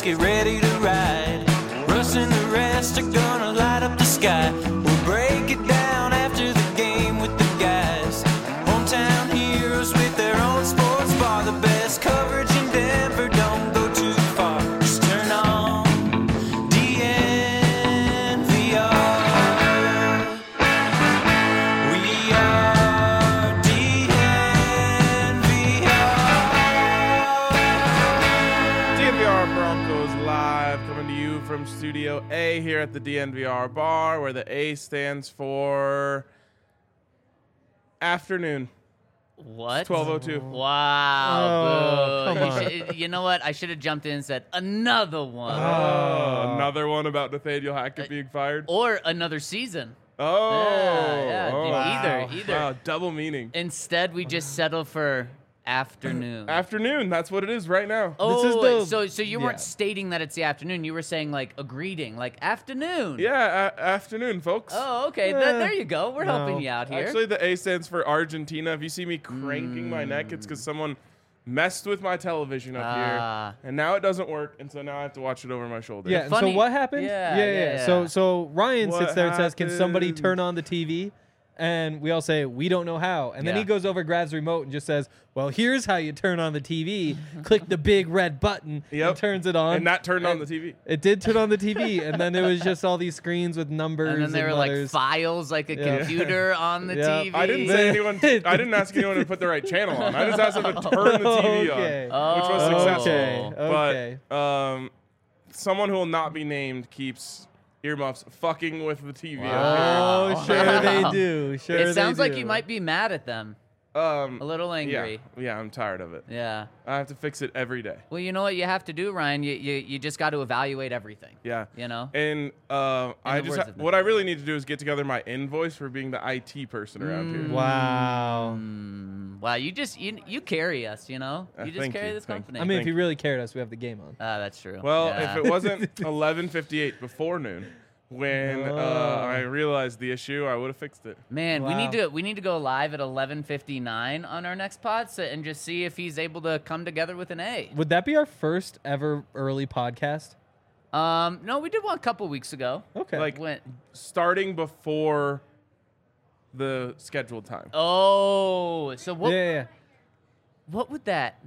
get ready to ride. Russ and the rest are gonna light up the sky. We'll break it down after the game with the guys. Hometown heroes with their own sports bar. The best coverage in Denver, don't go too far. Just turn on DNVR. We are DNVR Broncos live, coming to you from Studio A here at the DNVR bar, where the A stands for afternoon. What? 12:02. Wow. Oh, boo. come on. You know what? I should have jumped in and said another one. Another one about Nathaniel Hackett being fired. Or another season. Oh, Yeah, oh, dude, wow. either. Wow, double meaning. Instead, we just settle for afternoon. Afternoon, that's what it is right now. Oh, This is so you weren't stating that it's the afternoon. You were saying like a greeting, like afternoon. Yeah, afternoon, folks. Oh, okay. There you go. We're helping you out here. Actually, the A stands for Argentina. If you see me cranking my neck, it's because someone messed with my television up Ah. here, and now it doesn't work, and so now I have to watch it over my shoulder. Yeah. Funny- So what happened? Yeah. So Ryan What sits there and says, "Can somebody happened? turn on the TV?" And we all say, "We don't know how." And then Yeah. he goes over, grabs the remote, and just says, "Well, here's how you turn on the TV. Click the big red button Yep. and turns it on." And that turned on the TV. It did turn on the TV, and then it was just all these screens with numbers And then there were like letters. files, like a computer on the Yeah. TV. I didn't say anyone. I didn't ask anyone to put the right channel on. I just asked them to turn the TV Okay. on, which was Oh. successful. Okay. But someone who will not be named keeps earmuffs fucking with the TV. Oh, up sure they do. Sure It they sounds like do. you might be mad at them. here. A little angry. Yeah, I'm tired of it. Yeah. I have to fix it every day. Well, you know what you have to do, Ryan? You just got to evaluate everything. Yeah. You know? And the words of what I really need to do is get together my invoice for being the IT person around here. Wow. Wow, you carry us, you know? You just thank carry you, this thank company. I mean, if Thank you really cared us, we have the game on. that's true. Well, Yeah. if it wasn't 11:58 before noon, when I realized the issue, I would have fixed it. Man, Wow. we need to go live at 11:59 on our next pod and just see if he's able to come together with an A. Would that be our first ever early podcast? No, we did one a couple weeks ago. Okay. Like- When, Starting before the scheduled time. oh, so what? Yeah. What would that?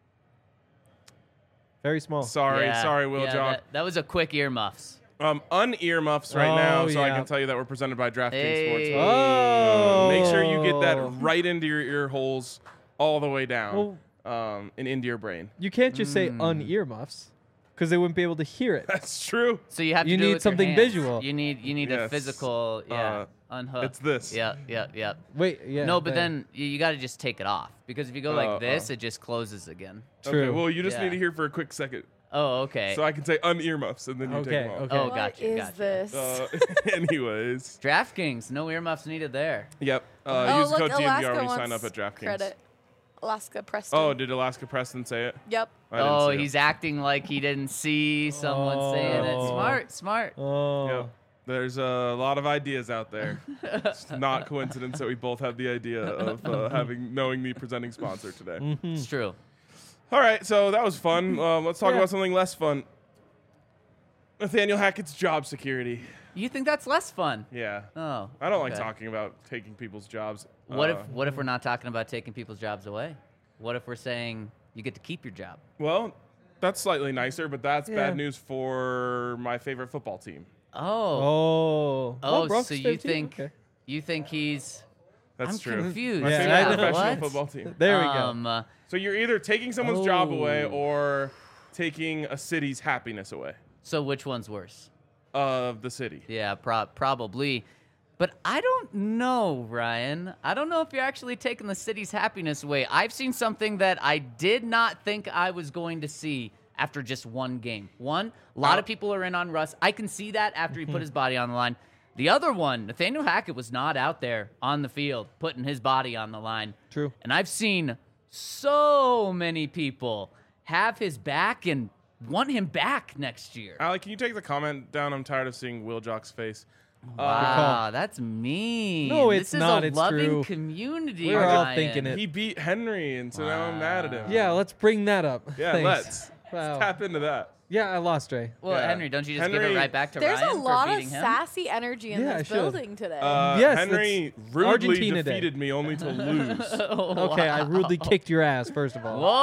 Very small. Sorry, Will yeah, John. That was a quick earmuffs. Un-earmuffs right Oh, now, so I yeah. can tell you that we're presented by DraftKings Hey. Sportsbook. Oh. Make sure you get that right into your ear holes all the way down Well- and into your brain. You can't just say un-earmuffs because they wouldn't be able to hear it. That's true. So you have You to do need it with your something hands. visual. You need a Yes. physical, unhook. It's this. Yep. Wait, yeah. No, but then you got to just take it off because if you go like this, oh. it just closes again. True. Okay, well, you just Yeah. need to hear for a quick second. Oh, okay. So I can say un-earmuffs, and then you Okay, take them off. okay. Oh, What gotcha. is gotcha. this? Anyways. DraftKings, no earmuffs needed there. Yep. Oh, Use look, code DNVR Alaska when you wants sign up at DraftKings. credit. Alaska Preston. Oh, did Alaska Preston say it? Yep. I didn't Oh, see it. he's acting like he didn't see someone saying it. Oh. Smart. Oh. Yep. There's a lot of ideas out there. It's not coincidence that we both have the idea of knowing the presenting sponsor today. It's true. All right, so that was fun. Let's talk Yeah. about something less fun. Nathaniel Hackett's job security. You think that's less fun? Yeah. Oh. I don't like okay. talking about taking people's jobs. What if we're not talking about taking people's jobs away? What if we're saying you get to keep your job? Well, that's slightly nicer, but that's Yeah. bad news for my favorite football team. Oh. Oh. Oh, Brock's so you 15? think Okay. he's That's I'm true. confused. My Yeah, favorite I know. professional What? football team. There we go. So you're either taking someone's job away Oh. or taking a city's happiness away So which one's worse? of the city. Yeah, probably. But I don't know, Ryan. I don't know if you're actually taking the city's happiness away. I've seen something that I did not think I was going to see after just one game. One, a lot of people are in on Russ. I can see that after he put his body on the line. The other one, Nathaniel Hackett was not out there on the field putting his body on the line. True. And I've seen so many people have his back and want him back next year. Alec, can you take the comment down? I'm tired of seeing Will Jock's face. Wow, that's mean. No, it's this not. is a It's loving true. community. We're all Ryan. thinking it. He beat Henry, and so now I'm mad at him. Yeah, let's bring that up. Yeah, Thanks. let's Wow. tap into that. Yeah, I lost Dre. Well, Yeah. Henry, don't you just give it Henry- right back to There's Ryan a lot for of beating him? sassy energy in Yeah, I this should. building today. Yes, Henry it's rudely Argentina Day. defeated me only to lose. Okay, I rudely kicked your ass, first of all.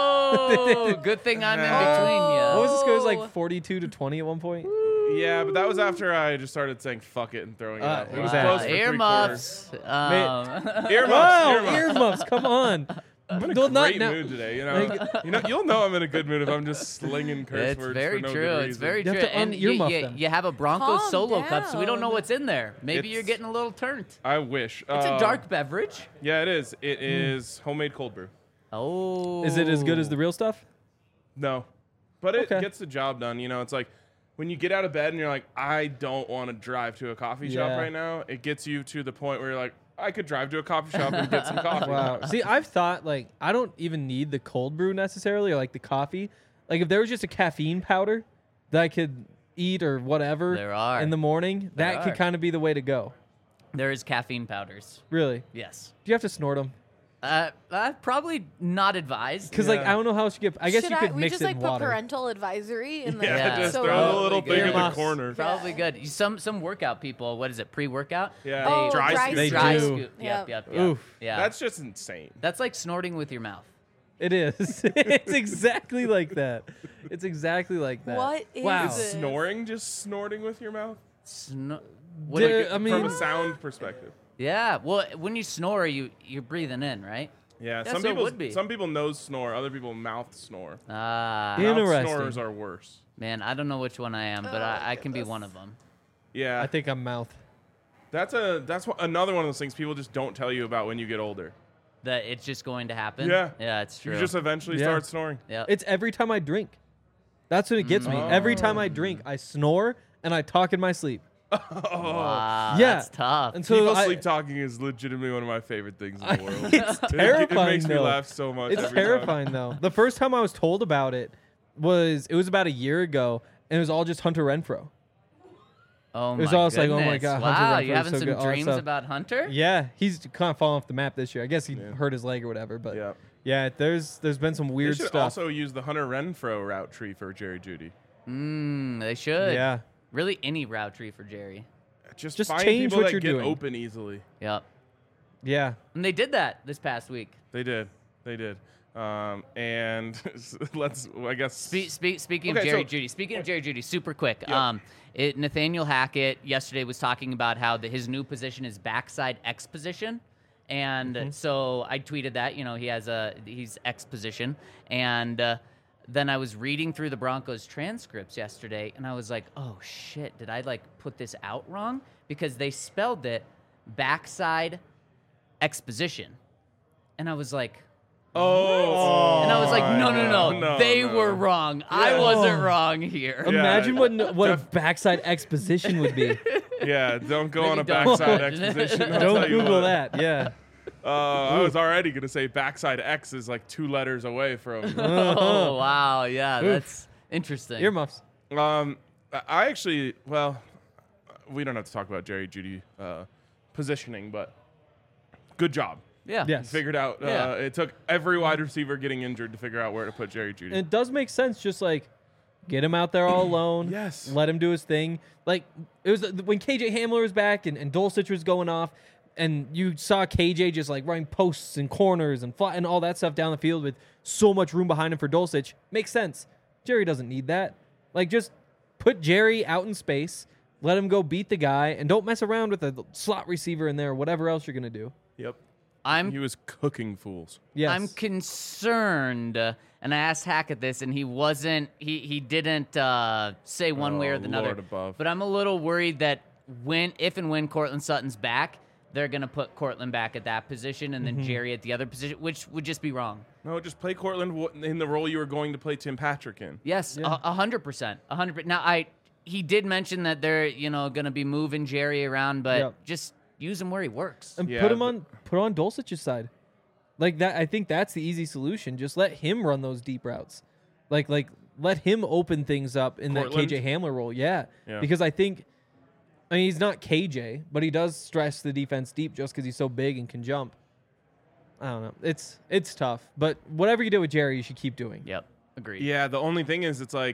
Whoa! Good thing I'm in between What you. was this? It was Oh. like 42-20 at one point. Yeah, but that was after I just started saying fuck it and throwing it out. It was wow. close for 3/4. Earmuffs. Earmuffs. Wow, Earmuffs. earmuffs! Come on. I'm in a Well, not great now- mood today. You'll know I'm in a good mood if I'm just slinging curse It's words very for no true. good It's reason. very You have true. to And un-earmuff you, them. you have a Broncos Calm solo cup, so we don't know down. what's in there. Maybe you're It's- getting a little turned. I wish. It's a dark beverage. Yeah, it is. It is homemade cold brew. Oh. Is it as good as the real stuff? No, but it Okay. gets the job done. It's like when you get out of bed and you're like, I don't want to drive to a coffee shop Yeah. right now. It gets you to the point where you're like, I could drive to a coffee shop and get some coffee. Wow. See, I've thought like I don't even need the cold brew necessarily, or like the coffee. Like if there was just a caffeine powder that I could eat or whatever There are. in the morning, There that could are. kind of be the way to go. There is caffeine powders. Really? Yes. Do you have to snort them? Probably not advised. Because like Yeah. I don't know how else you get. I guess Should you could we mix just it like in put water. parental advisory in the Yeah, just so throw the Probably little good. thing in the Earmuffs. corner. Probably good. Some workout people. What is it? Pre-workout. Yeah. Oh, Dry dry scoop. They Dry do. scoop. Yep. Yep. Yep. Oof. Yeah. That's just insane. That's like snorting with your mouth. It is. It's exactly like that. It's exactly like that. What is wow. it? Snoring, just snorting with your mouth? What Duh, do you- I mean- From a sound perspective. yeah. Well, when you snore, you're breathing in, right? Yeah, Yeah, so it would be. some people nose snore, other people mouth snore. Ah. Yeah. Mouth Interesting. snorers are worse. Man, I don't know which one I am, but I can be one of them. Yeah, I think I'm mouth. that's another one of those things people just don't tell you about when you get older. That it's just going to happen. Yeah. Yeah, it's true. You just eventually Yeah. start snoring. Yep. It's every time I drink. That's what it gets me. Every time I drink, I snore and I talk in my sleep. Wow, Yeah. that's tough. And so People I- sleep talking is legitimately one of my favorite things in the world. it's It terrifying makes me though. laugh so much. It's every time. terrifying though. The first time I was told about it was about a year ago, and it was all just Hunter Renfro. Oh It my was always like, oh my goodness. God, Hunter Wow, Renfro you is having so some good, all that dreams stuff. about Hunter? Yeah, he's kind of fallen off the map this year. I guess he Yeah. hurt his leg or whatever. But Yeah. yeah, there's been some They weird should stuff. also use the Hunter Renfro route tree for Jerry Judy. They should. Yeah, Really, any route tree for Jerry. Just Just find change people what that you're get doing. open easily. Yep. yeah. And they did that this past week. They did. And let's, I guess. Speaking of Okay, Jerry so- Judy, speaking of Jerry Judy, super quick. Yep. Nathaniel Hackett yesterday was talking about how his new position is backside X position. And so I tweeted that, he's X position. And then I was reading through the Broncos transcripts yesterday, and I was like, oh, shit, did I, put this out wrong? Because they spelled it backside X position. And I was like, Oh. and I was like, no. No, They no. were wrong. I wasn't wrong here. Imagine what a backside exposition would be. Yeah, don't go on a Maybe don't. backside exposition. I'll Don't tell you Google what. that. Yeah. I was already going to say backside X is like 2 letters away from. Oh, wow. Yeah, Oof. that's interesting. Earmuffs. I actually, well, we don't have to talk about Jerry Judy positioning, but good job. Yeah. Yes. Figured out. Yeah. It took every wide receiver getting injured to figure out where to put Jerry Judy. And it does make sense. Just like get him out there all alone. Yes. Let him do his thing. Like it was when KJ Hamler was back and Dulcich was going off, and you saw KJ just like running posts and corners and and all that stuff down the field with so much room behind him for Dulcich. Makes sense. Jerry doesn't need that. Like just put Jerry out in space, let him go beat the guy, and don't mess around with a slot receiver in there or whatever else you're gonna do. Yep. I'm He was cooking fools. Yes. I'm concerned, and I asked Hackett this, and he wasn't. He didn't say one way or the Lord other. above. But I'm a little worried that if and when Cortland Sutton's back, they're gonna put Cortland back at that position, and then Jerry at the other position, which would just be wrong. No, just play Cortland in the role you were going to play Tim Patrick in. Yes, Yeah. 100%, 100%. Now he did mention that they're gonna be moving Jerry around, but Yep. just use him where he works. And Yeah, put him on Dulcich's side. Like that, I think that's the easy solution. Just let him run those deep routes. Like let him open things up in Cortland? that KJ Hamler role. Yeah. Yeah. Because I mean he's not KJ, but he does stress the defense deep just because he's so big and can jump. I don't know. It's tough, but whatever you do with Jerry, you should keep doing. Yep, agreed. Yeah, the only thing is, it's like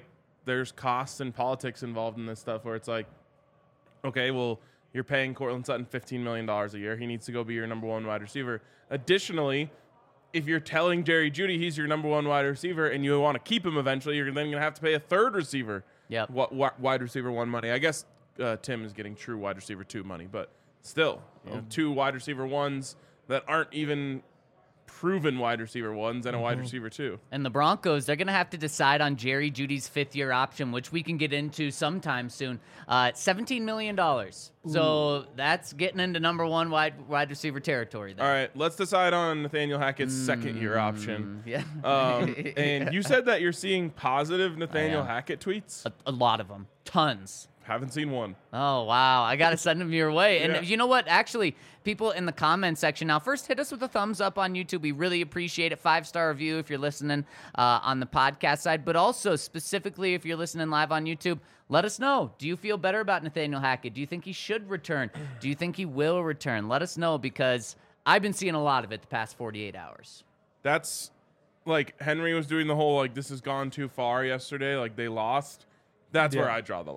there's costs and politics involved in this stuff where it's like, okay, well, you're paying Cortland Sutton $15 million a year. He needs to go be your number one wide receiver. Additionally, if you're telling Jerry Jeudy he's your number one wide receiver and you want to keep him eventually, you're then going to have to pay a third receiver wide receiver one money. I guess Tim is getting true wide receiver two money, but still, two wide receiver ones that aren't even proven wide receiver ones and a wide receiver two. And the Broncos, they're going to have to decide on Jerry Jeudy's fifth-year option, which we can get into sometime soon. $17 million. So that's getting into number one wide receiver territory there. All right, let's decide on Nathaniel Hackett's second-year option. Yeah. And you said that you're seeing positive Nathaniel Hackett tweets? A lot of them. Tons. Haven't seen one. Oh, wow. I got to send them your way. And Yeah. you know what? Actually, people in the comment section now, first hit us with a thumbs up on YouTube. We really appreciate it. 5-star review if you're listening on the podcast side. But also, specifically, if you're listening live on YouTube, let us know. Do you feel better about Nathaniel Hackett? Do you think he should return? Do you think he will return? Let us know because I've been seeing a lot of it the past 48 hours. That's like Henry was doing the whole, like, this has gone too far yesterday. Like, they lost. That's where I draw the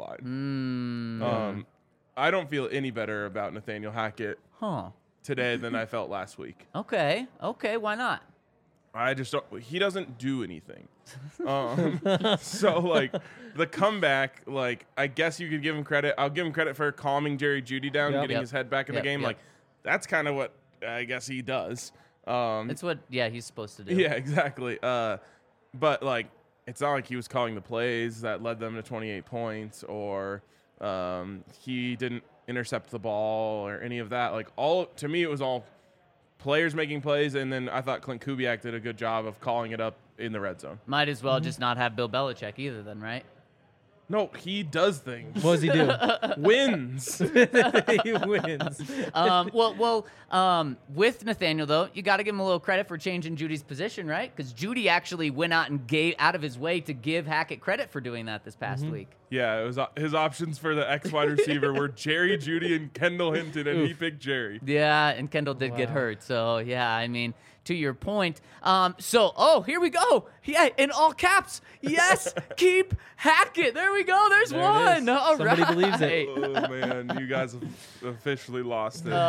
line. I don't feel any better about Nathaniel Hackett today than I felt last week. Okay. Why not? I just don't. He doesn't do anything. So, like, the comeback, like, I guess you could give him credit. I'll give him credit for calming Jerry Jeudy down, getting his head back in the game. Like, that's kind of what I guess he does. It's what, he's supposed to do. Yeah, exactly. But, like, it's not like he was calling the plays that led them to 28 points or he didn't intercept the ball or any of that. Like, to me, it was all players making plays, and then I thought Clint Kubiak did a good job of calling it up in the red zone. Might as well just not have Bill Belichick either then, right? No, he does things. What does he do? Wins. He wins. With Nathaniel, though, you got to give him a little credit for changing Judy's position, right? Because Jeudy actually went out and gave out of his way to give Hackett credit for doing that this past week. Yeah, it was his options for the X wide receiver were Jerry Jeudy and Kendall Hinton, and he picked Jerry. Yeah, and Kendall did get hurt. So, yeah, I mean, to your point. Here we go. Yeah, in all caps. Yes, keep Hackett. There we go. There's There it one. is. All Somebody right. believes it. Oh, man, you guys have officially lost it.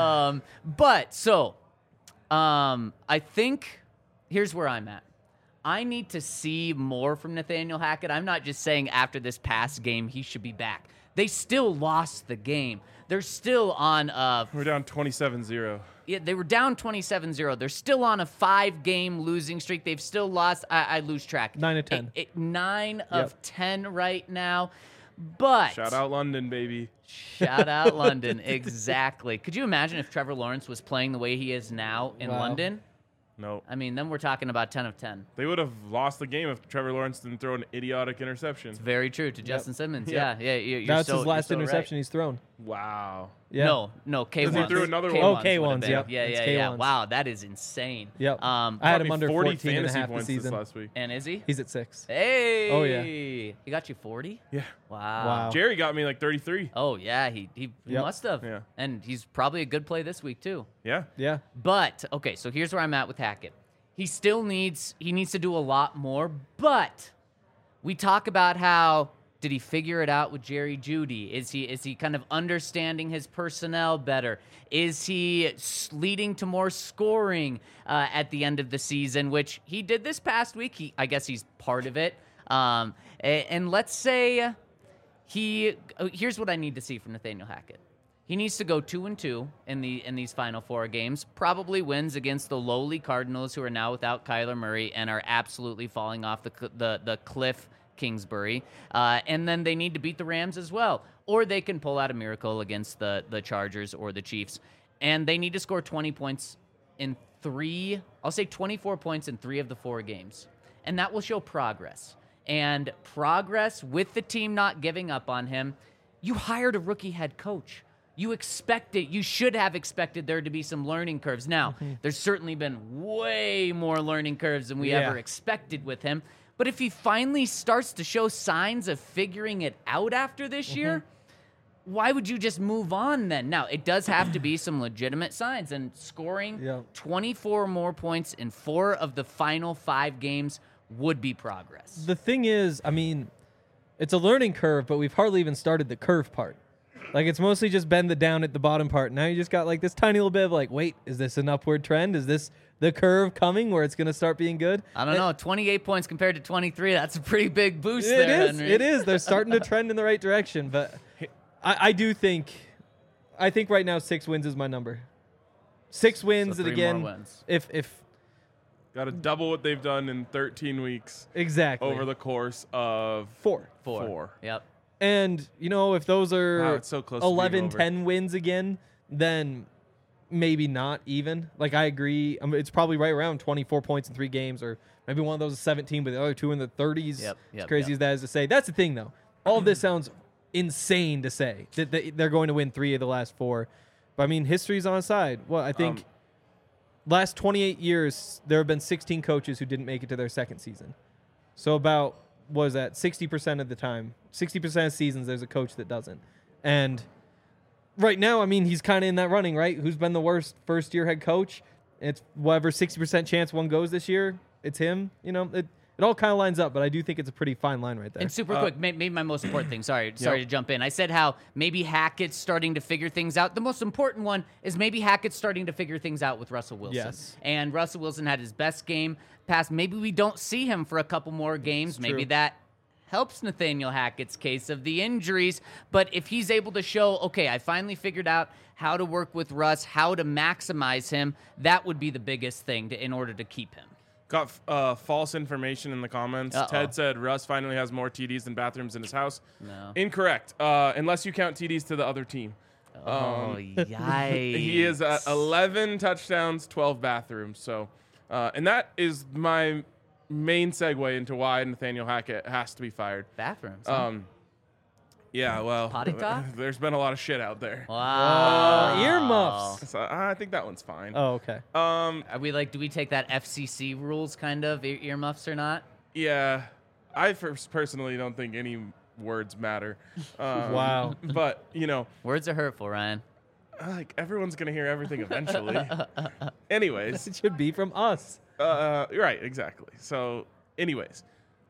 I think here's where I'm at. I need to see more from Nathaniel Hackett. I'm not just saying after this past game he should be back. They still lost the game. They're still on We're down 27-0. Yeah, they were down 27-0. They're still on a 5-game losing streak. They've still lost. I lose track. 9 of 10. 9 of 10 right now. But Shout out London, baby. shout out London. Exactly. Could you imagine if Trevor Lawrence was playing the way he is now in London? No. I mean, then we're talking about 10 of 10. They would have lost the game if Trevor Lawrence didn't throw an idiotic interception. Very true to Justin Simmons. Yeah. Yeah. You're That's so, his last you're so interception right. he's thrown. Wow. Yeah. No, K1s. He threw another one. K1s Oh, would have K1s, been. yep. Yeah. It's Yeah. K1s. Wow, that is insane. Yep. I I had Got him me under 40 14 and a fantasy half this points this season. last week. And is he? He's at 6. Hey. Oh, yeah. He got you 40? Yeah. Wow. Jerry got me like 33. Oh, yeah, he Yep. must have. Yeah. And he's probably a good play this week, too. Yeah. Yeah. But, okay, so here's where I'm at with Hackett. He needs to do a lot more, but we talk about how, did he figure it out with Jerry Jeudy? Is he kind of understanding his personnel better? Is he leading to more scoring at the end of the season, which he did this past week? I guess he's part of it. And let's say here's what I need to see from Nathaniel Hackett. He needs to go 2-2 in these final 4 games. Probably wins against the lowly Cardinals, who are now without Kyler Murray and are absolutely falling off the cliff. Kingsbury, and then they need to beat the Rams as well, or they can pull out a miracle against the Chargers or the Chiefs, and they need to score 20 points in 24 points in 3 of the 4 games, and that will show progress. And progress with the team not giving up on him. You hired a rookie head coach. You should have expected there to be some learning curves. Now, there's certainly been way more learning curves than we ever expected with him. But if he finally starts to show signs of figuring it out after this year, why would you just move on then? Now, it does have to be some legitimate signs, and scoring 24 more points in 4 of the final 5 games would be progress. The thing is, I mean, it's a learning curve, but we've hardly even started the curve part. Like, it's mostly just been the down at the bottom part. Now you just got like this tiny little bit of like, wait, is this an upward trend? Is this the curve coming where it's going to start being good? I don't know. 28 points compared to 23. That's a pretty big boost It there, is. Henry. It is. They're starting to trend in the right direction. But I think right now 6 wins is my number. 6 wins, So and 3 again, more wins. if Got to double what they've done in 13 weeks exactly over the course of 4. 4. Yep. And, if those are Wow, it's so close to being 11, over. 10 wins again, then maybe not even. Like, I agree. It's probably right around 24 points in 3 games, or maybe one of those is 17, but the other 2 in the 30s. Yep, As crazy as that is to say. That's the thing, though. All of this sounds insane to say, that they're going to win 3 of the last 4. But, I mean, history's on side. Well, I think last 28 years, there have been 16 coaches who didn't make it to their second season. So about, what is that, 60% of the time, 60% of seasons, there's a coach that doesn't. And right now, I mean, he's kind of in that running, right? Who's been the worst first-year head coach? It's whatever 60% chance one goes this year. It's him. It all kind of lines up, but I do think it's a pretty fine line right there. And super quick, maybe my most important thing. Sorry to jump in. I said how maybe Hackett's starting to figure things out. The most important one is maybe Hackett's starting to figure things out with Russell Wilson. Yes. And Russell Wilson had his best game pass. Maybe we don't see him for a couple more games. Maybe that helps Nathaniel Hackett's case of the injuries. But if he's able to show, okay, I finally figured out how to work with Russ, how to maximize him, that would be the biggest thing in order to keep him. Got false information in the comments. Uh-oh. Ted said Russ finally has more TDs than bathrooms in his house. No. Incorrect. Unless you count TDs to the other team. Oh, yikes. He is at 11 touchdowns, 12 bathrooms. So, and that is my main segue into why Nathaniel Hackett has to be fired. Bathrooms. Huh? Yeah, well, Potty talk? there's been a lot of shit out there. Wow. Earmuffs. So I think that one's fine. Oh, okay. Are we do we take that FCC rules kind of, earmuffs or not? Yeah, I personally don't think any words matter. Wow. But, Words are hurtful, Ryan. like everyone's going to hear everything eventually. Anyways, It should be from us. right, exactly. So, anyways,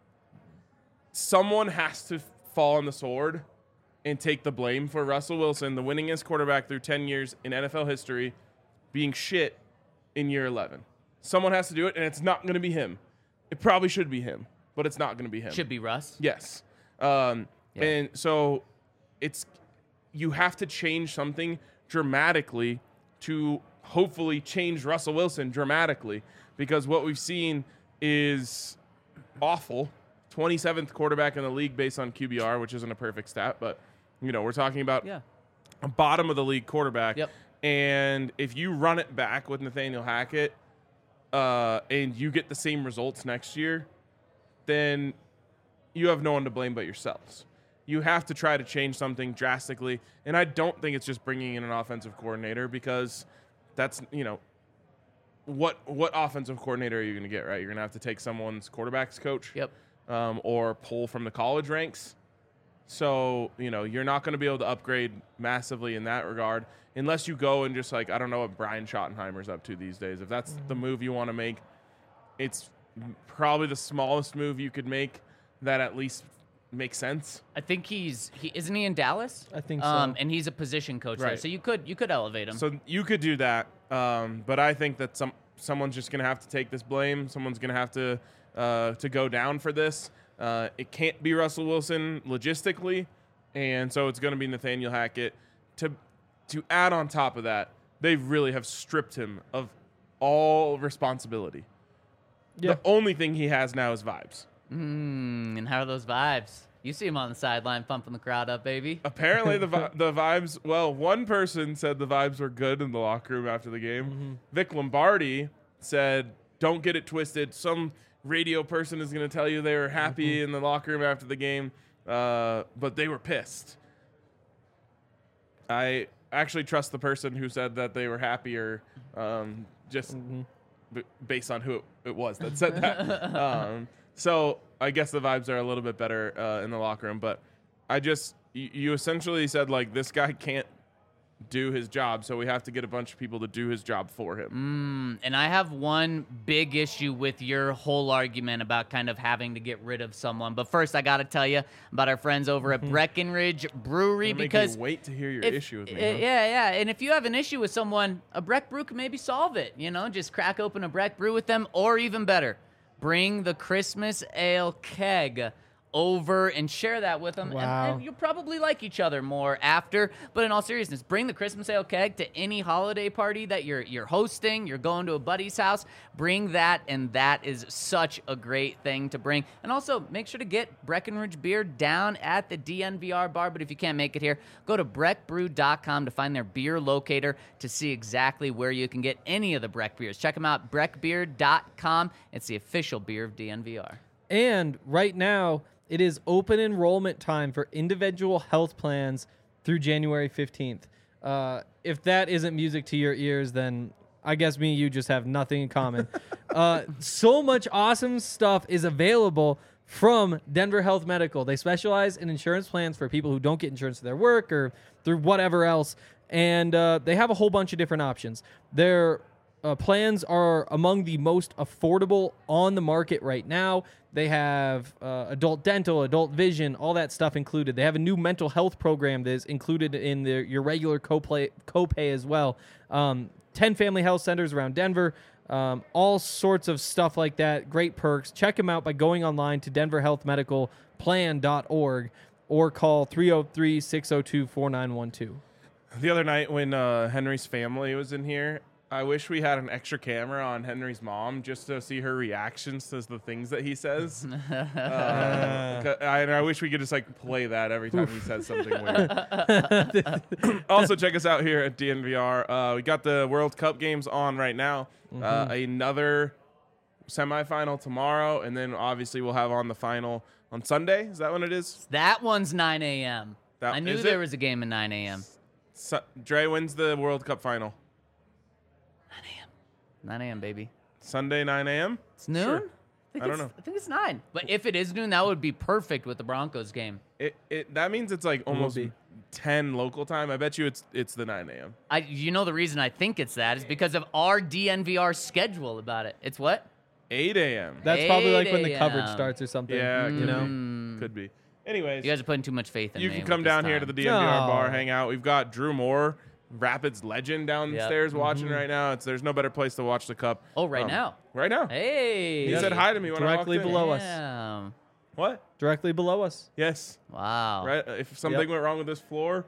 someone has to fall on the sword and take the blame for Russell Wilson, the winningest quarterback through 10 years in NFL history, being shit in year 11. Someone has to do it, and it's not going to be him. It probably should be him, but it's not going to be him. Should be Russ. Yes. And so you have to change something dramatically to hopefully change Russell Wilson dramatically, because what we've seen is awful. 27th quarterback in the league based on QBR, which isn't a perfect stat, but we're talking about a bottom of the league quarterback. Yep. And if you run it back with Nathaniel Hackett and you get the same results next year, then you have no one to blame but yourselves. You have to try to change something drastically. And I don't think it's just bringing in an offensive coordinator, because that's, what offensive coordinator are you going to get, right? You're going to have to take someone's quarterback's coach. Yep. Or pull from the college ranks. So, you're not going to be able to upgrade massively in that regard unless you go and just I don't know what Brian Schottenheimer's up to these days. If that's the move you want to make, it's probably the smallest move you could make that at least makes sense. I think isn't he in Dallas? I think so. And he's a position coach there, Right. so you could elevate him. So you could do that. But I think that someone's just going to have to take this blame. Someone's going to have to go down for this. It can't be Russell Wilson logistically, and so it's going to be Nathaniel Hackett. To add on top of that, they really have stripped him of all responsibility. Yeah. The only thing he has now is vibes. And how are those vibes? You see him on the sideline pumping the crowd up, baby. Apparently, the vibes. Well, one person said the vibes were good in the locker room after the game. Mm-hmm. Vic Lombardi said, "Don't get it twisted. Some radio person is going to tell you they were happy in the locker room after the game, but they were pissed." I actually trust the person who said that they were happier, just based on who it was that said that. So I guess the vibes are a little bit better in the locker room, but you essentially said this guy can't do his job. So we have to get a bunch of people to do his job for him. And I have one big issue with your whole argument about kind of having to get rid of someone. But first, I got to tell you about our friends over at Breckenridge Brewery, It'll make because me wait to hear your if- issue with me. Yeah. And if you have an issue with someone, a Breck Brew can maybe solve it. Just crack open a Breck Brew with them, or even better, bring the Christmas Ale keg over and share that with them. Wow. And you'll probably like each other more after. But in all seriousness, bring the Christmas Ale keg to any holiday party that you're hosting. You're going to a buddy's house. Bring that, and that is such a great thing to bring. And also, make sure to get Breckenridge beer down at the DNVR bar. But if you can't make it here, go to breckbrew.com to find their beer locator to see exactly where you can get any of the Breck beers. Check them out, breckbeer.com. It's the official beer of DNVR. And right now, it is open enrollment time for individual health plans through January 15th. If that isn't music to your ears, then I guess me and you just have nothing in common. So much awesome stuff is available from Denver Health Medical. They specialize in insurance plans for people who don't get insurance for their work or through whatever else. And they have a whole bunch of different options. Their plans are among the most affordable on the market right now. They have adult dental, adult vision, all that stuff included. They have a new mental health program that is included in your regular copay as well. 10 family health centers around Denver, all sorts of stuff like that. Great perks. Check them out by going online to denverhealthmedicalplan.org or call 303-602-4912. The other night when Henry's family was in here, I wish we had an extra camera on Henry's mom just to see her reactions to the things that he says. I wish we could just play that every time he says something weird. Also, check us out here at DNVR. We got the World Cup games on right now. Another semifinal tomorrow, and then obviously we'll have on the final on Sunday. Is that when it is? That one's 9 a.m. I knew is there it? was a game at 9 a.m. Dre, when's the World Cup final? 9 a.m., baby. Sunday, 9 a.m.? It's noon? Sure. I don't know. I think it's 9. But if it is noon, that would be perfect with the Broncos game. That means it's almost be. 10 local time. I bet you it's the 9 a.m. The reason I think it's that is because of our DNVR schedule about it. It's what? 8 a.m. That's probably like when the 8 coverage a.m. starts or something. Yeah, you could know? be. Could be. Anyways, You guys are putting too much faith in you me. can with come this down here to time. the DNVR No. bar, hang out. We've got Drew Moore, Rapids legend downstairs watching right now. There's no better place to watch the Cup. Oh, right now. Right now. Hey. He said hi to me when Directly I walked in. below us. Damn. What? Directly below us. Yes. Wow. Right. If something went wrong with this floor,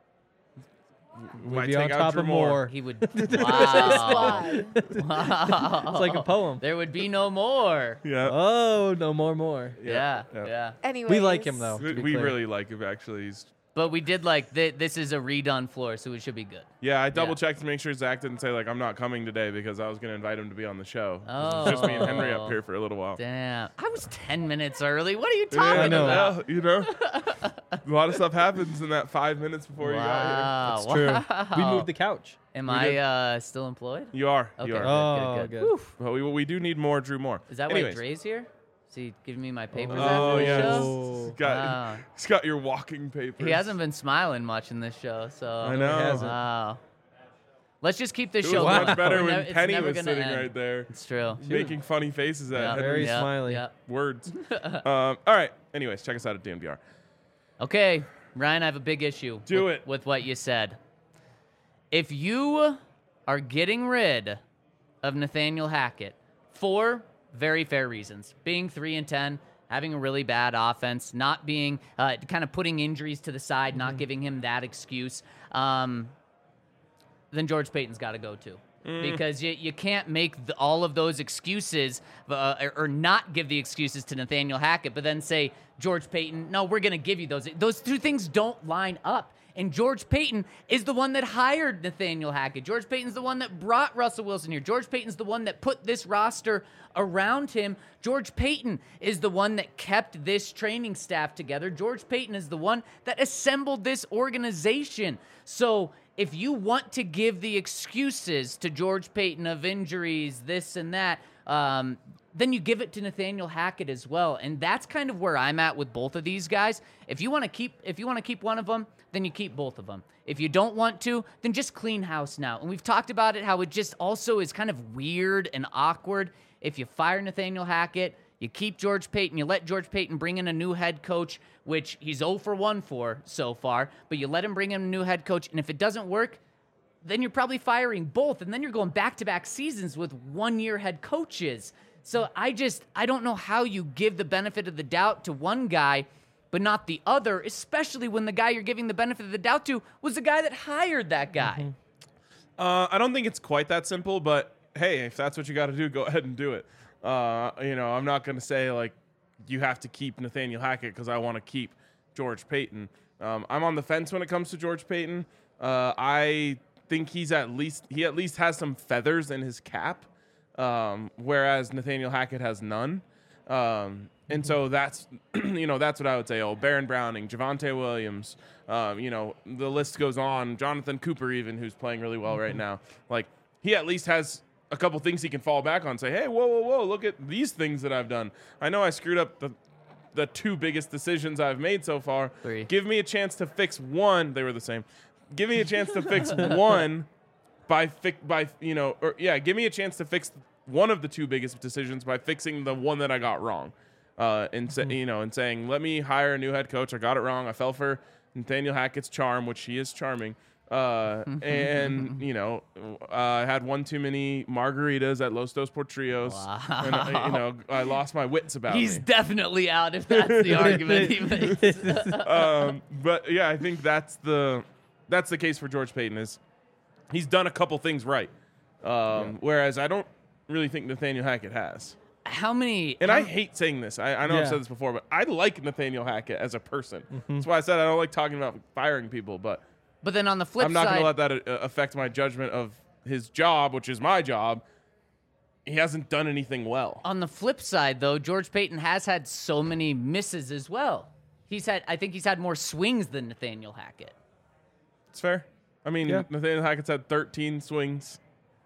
we We'd might be on take out top Drew of Moore. more. He would. Wow. Squad. Wow. It's like a poem. There would be no more. Yeah. Oh, no more. Yeah. Anyways. We like him, though. to be We clear. really like him, actually. But we did this is a redone floor, so it should be good. Yeah, I double checked to make sure Zach didn't say I'm not coming today because I was going to invite him to be on the show. Oh. It's just me and Henry up here for a little while. Damn. I was 10 minutes early. What are you talking I know. about? A lot of stuff happens in that 5 minutes before you got Wow. It's true. We Wow. moved the couch. Am did. I still employed? here. You are. Okay. You are. Oh, Good. good. But we do need more Drew Moore. Is that Anyways. why Dre's here? Is he giving me my papers Oh, after the yes. show? He's got, Wow. he's got your walking papers. He hasn't been smiling much in this show, so. I know. hasn't. Wow. Let's just keep this It show was going. much better We're when it's Penny never was gonna sitting end. right there It's true. making funny faces at Yeah. Henry's Very Yeah, smiley. yeah. words. All right. Anyways, check us out at DNVR. Okay, Ryan, I have a big issue with what you said. If you are getting rid of Nathaniel Hackett for very fair reasons, being 3-10, having a really bad offense, not being kind of putting injuries to the side, not giving him that excuse, then George Payton's got to go too. Because you can't make all of those excuses or not give the excuses to Nathaniel Hackett, but then say, George Payton, no, we're going to give you those. Those two things don't line up. And George Payton is the one that hired Nathaniel Hackett. George Payton's the one that brought Russell Wilson here. George Payton's the one that put this roster around him. George Payton is the one that kept this training staff together. George Payton is the one that assembled this organization. So if you want to give the excuses to George Payton of injuries, this and that, then you give it to Nathaniel Hackett as well. And that's kind of where I'm at with both of these guys. If you want to keep one of them, then you keep both of them. If you don't want to, then just clean house now. And we've talked about it, how it just also is kind of weird and awkward. If you fire Nathaniel Hackett, you keep George Paton, you let George Paton bring in a new head coach, which he's 0 for 1 for so far, but you let him bring in a new head coach, and if it doesn't work, then you're probably firing both, and then you're going back-to-back seasons with one-year head coaches. So I don't know how you give the benefit of the doubt to one guy, but not the other, especially when the guy you're giving the benefit of the doubt to was the guy that hired that guy. I don't think it's quite that simple, but hey, if that's what you got to do, go ahead and do it. I'm not going to say like you have to keep Nathaniel Hackett because I want to keep George Paton. I'm on the fence when it comes to George Paton. I think he at least has some feathers in his cap, whereas Nathaniel Hackett has none. And so that's that's what I would say. Oh, Baron Browning, Javonte Williams, the list goes on. Jonathan Cooper, even, who's playing really well right now. Like, he at least has a couple things he can fall back on. Say, hey, whoa, look at these things that I've done. I know I screwed up the two biggest decisions I've made so far. 3. Give me a chance to fix one. They were the same. Give me a chance to fix one give me a chance to fix one of the two biggest decisions by fixing the one that I got wrong. And saying, let me hire a new head coach. I got it wrong. I fell for Nathaniel Hackett's charm, which he is charming. I had one too many margaritas at Los Dos Portrillos. Wow. And, I lost my wits about He's me. definitely out if that's the argument he makes. But yeah, I think that's the case for George Paton. Is he's done a couple things right, whereas I don't really think Nathaniel Hackett has. I hate saying this. I know I've said this before, but I like Nathaniel Hackett as a person. That's why I said I don't like talking about firing people, but then on the flip I'm not side, going to let that affect my judgment of his job, which is my job. He hasn't done anything well. On the flip side, though, George Paton has had so many misses as well. I think he's had more swings than Nathaniel Hackett. It's fair. I mean, Nathaniel Hackett's had 13 swings.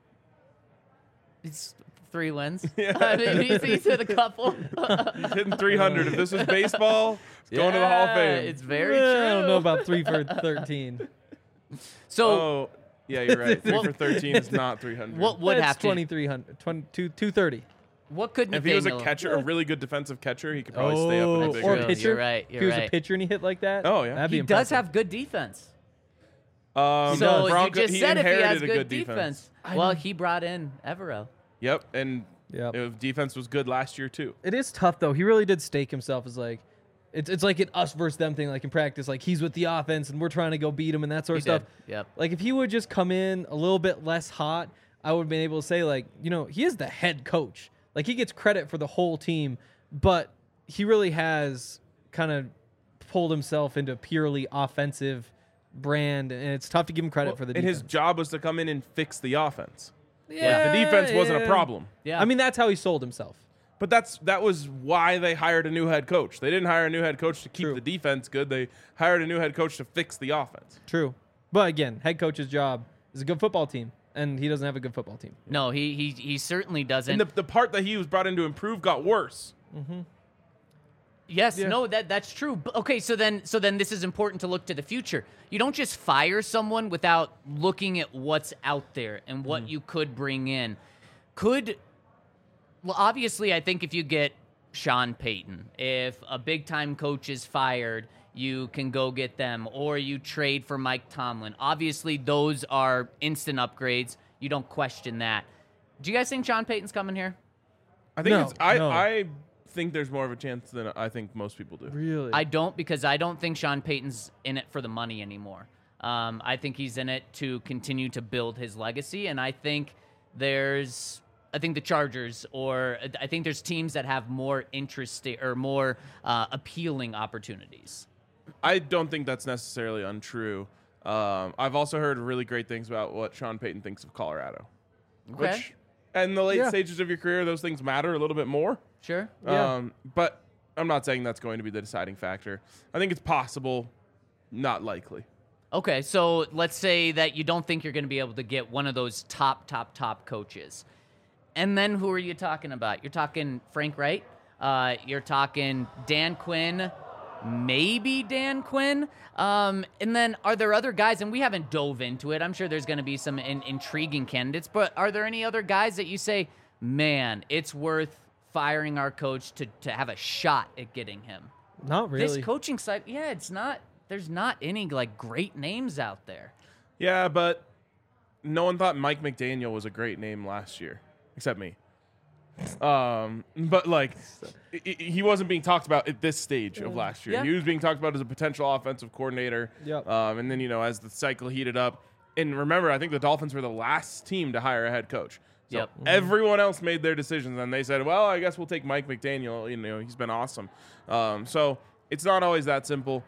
It's 3 wins. Yeah. I mean, he's hit a couple. He's hitting 300. If this was baseball, it's going to the Hall of Fame. It's very true. I don't know about 3 for 13. So, yeah, you're right. 3 for 13 is not 300. what would That's have to? 2,300, 230. What could If he was Nathaniel? a catcher, a really good defensive catcher, he could probably stay up in a big or true. a league. pitcher. You're right, If he was you're a right. pitcher and he hit like that, Oh, yeah. that'd be He impressive. does have good defense. So So you just said if he has inherited a good good defense. Well, he brought in Evero. Yep, and Yep. defense was good last year too. It is tough though. He really did stake himself as like, it's like an us versus them thing. Like in practice, like he's with the offense and we're trying to go beat him and that sort of He stuff. did. Yep. Like if he would just come in a little bit less hot, I would have been able to say like, he is the head coach. Like he gets credit for the whole team, but he really has kind of pulled himself into a purely offensive brand, and it's tough to give him credit for the And defense. his job was to come in and fix the offense. Yeah, The defense wasn't a problem. Yeah. I mean, that's how he sold himself. But that was why they hired a new head coach. They didn't hire a new head coach to keep True. the defense good. They hired a new head coach to fix the offense. True. But again, head coach's job is a good football team, and he doesn't have a good football team. No, he certainly doesn't. And the part that he was brought in to improve got worse. Yes, no, that's true. But, okay, so then this is important to look to the future. You don't just fire someone without looking at what's out there and what you could bring in. Obviously, I think if you get Sean Payton, if a big-time coach is fired, you can go get them, or you trade for Mike Tomlin. Obviously, those are instant upgrades. You don't question that. Do you guys think Sean Payton's coming here? I think No, no. I think there's more of a chance than I think most people do. Really? I don't, because I don't think Sean Payton's in it for the money anymore. I think he's in it to continue to build his legacy, and I think the Chargers, or I think there's teams that have more interesting or more appealing opportunities. I don't think that's necessarily untrue. I've also heard really great things about what Sean Payton thinks of Colorado. Okay. Which, in the late Yeah. stages of your career, those things matter a little bit more. Sure. Yeah. But I'm not saying that's going to be the deciding factor. I think it's possible, not likely. Okay, so let's say that you don't think you're going to be able to get one of those top coaches. And then who are you talking about? You're talking Frank Wright. You're talking Dan Quinn. Maybe Dan Quinn. And then are there other guys, and we haven't dove into it. I'm sure there's going to be some intriguing candidates, but are there any other guys that you say, man, it's worth firing our coach to have a shot at getting him? Not really. This coaching side, yeah, it's not. There's not any like great names out there. Yeah, but no one thought Mike McDaniel was a great name last year, except me. But like, he wasn't being talked about at this stage of last year. Yeah. He was being talked about as a potential offensive coordinator. Yep. And then, as the cycle heated up, and remember, I think the Dolphins were the last team to hire a head coach. So Yep. everyone else made their decisions, and they said, well, I guess we'll take Mike McDaniel. He's been awesome. So it's not always that simple.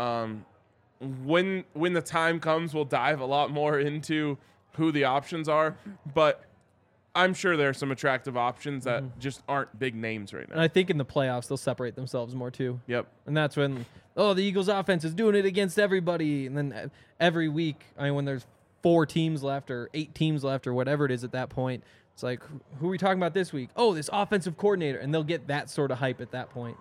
When the time comes, we'll dive a lot more into who the options are, but I'm sure there are some attractive options that just aren't big names right And now. I think in the playoffs they'll separate themselves more too. Yep. And that's when, the Eagles offense is doing it against everybody. And then every week, when there's 4 teams left or 8 teams left or whatever it is at that point, it's like, who are we talking about this week? Oh, this offensive coordinator. And they'll get that sort of hype at that point.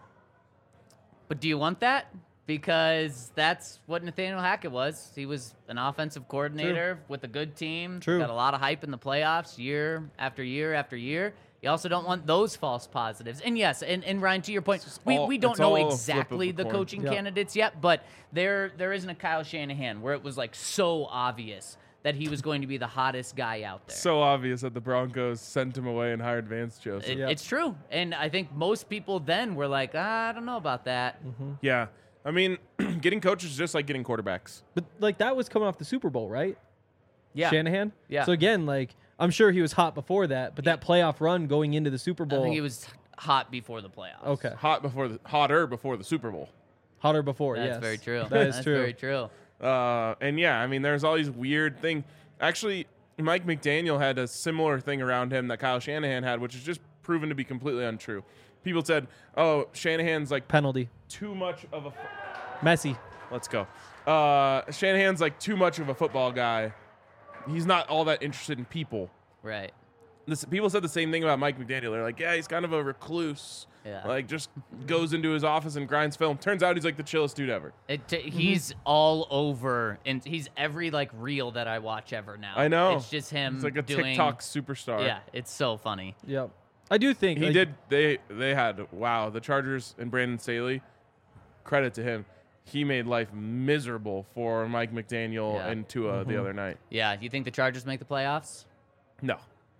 But do you want that? Because that's what Nathaniel Hackett was. He was an offensive coordinator with a good team. True. Got a lot of hype in the playoffs year after year after year. You also don't want those false positives. And yes, and Ryan, to your point, we don't it's know all a flip of exactly the the coin. coaching Yeah. candidates yet, but there isn't a Kyle Shanahan where it was like so obvious that he was going to be the hottest guy out there. So obvious that the Broncos sent him away and hired Vance Joseph. Yeah. It's true. And I think most people then were like, I don't know about that. Yeah. I mean, getting coaches is just like getting quarterbacks. But like that was coming off the Super Bowl, right? Yeah. Shanahan? Yeah. So again, like I'm sure he was hot before that, but that playoff run going into the Super I Bowl, think he was hot before the playoffs. okay, Hotter before the Super Bowl. hotter before. That's yes. very true. That is That's true. very true. And yeah, I mean, there's all these weird things. Actually, Mike McDaniel had a similar thing around him that Kyle Shanahan had, which is just proven to be completely untrue. People said, "Oh, Shanahan's like Penalty. too much of a." Messi. Let's go. Shanahan's like too much of a football guy. He's not all that interested in people. Right. People said the same thing about Mike McDaniel. They're like, yeah, he's kind of a recluse. Yeah. Like, just goes into his office and grinds film. Turns out he's like the chillest dude ever. He's all over, and he's every like reel that I watch ever now. I know. It's just him. He's like a doing, TikTok superstar. Yeah, it's so funny. Yep. I do think He like, did. They had, the Chargers and Brandon Staley, credit to him. He made life miserable for Mike McDaniel Yeah. and Tua the other night. Yeah. Do you think the Chargers make the playoffs? No,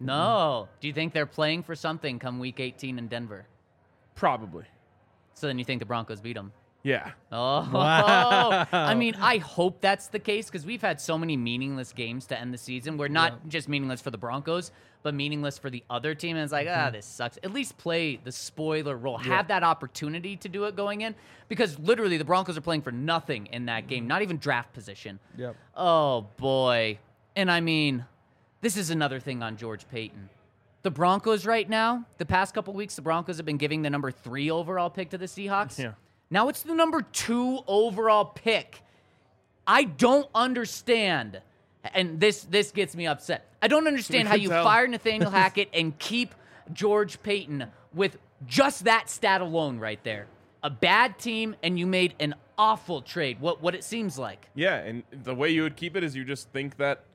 No. Do you think they're playing for something come Week 18 in Denver? probably. So then you think the Broncos beat them? Yeah. Oh, Wow. I mean, I hope that's the case because we've had so many meaningless games to end the season. We're not just meaningless for the Broncos, but meaningless for the other team. And it's like, this sucks. At least play the spoiler role. Have that opportunity to do it going in because literally the Broncos are playing for nothing in that game, not even draft position. Yep. Oh, boy. And I mean, this is another thing on George Payton. The Broncos right now, the past couple weeks, the Broncos have been giving the number 3 overall pick to the Seahawks. Yeah. Now it's the number 2 overall pick. I don't understand, and this gets me upset. I don't understand how can you tell. fire Nathaniel Hackett and keep George Payton with just that stat alone right there. A bad team, and you made an awful trade, what it seems like. Yeah, and the way you would keep it is you just think that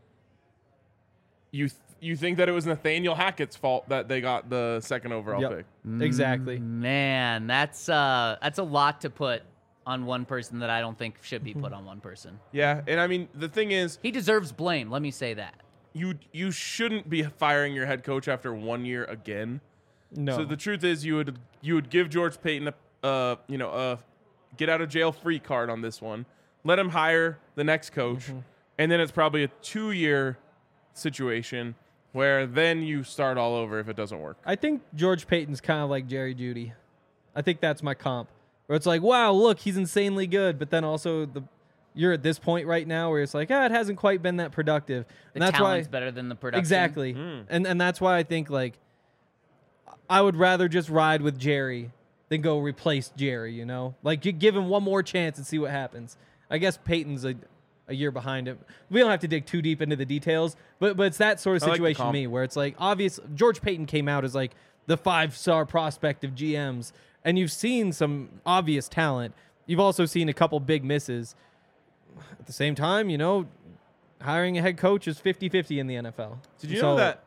you think that it was Nathaniel Hackett's fault that they got the 2nd overall Yep. pick. Exactly. Man, that's a lot to put on one person that I don't think should be put on one person. Yeah, and I mean the thing is, He deserves blame, let me say that. you shouldn't be firing your head coach after 1 year again. No. So the truth is, you would give George Payton a get out of jail free card on this one. Let him hire the next coach, and then it's probably a 2-year situation where then you start all over if it doesn't work. I think George Payton's kind of like Jerry Jeudy. I think that's my comp. Where it's like, wow, look, he's insanely good, but then also you're at this point right now where it's like, it hasn't quite been that productive. The And that's why talent's better than the production. exactly. And that's why I think like I would rather just ride with Jerry than go replace Jerry, you know? Like you give him one more chance and see what happens. I guess Peyton's a year behind him. We don't have to dig too deep into the details, but it's that sort of I like the situation to comp. me where it's like obvious. George Payton came out as like the 5-star prospect of GMs, and you've seen some obvious talent. You've also seen a couple big misses. At the same time, hiring a head coach is 50-50 in the NFL. Did you know that?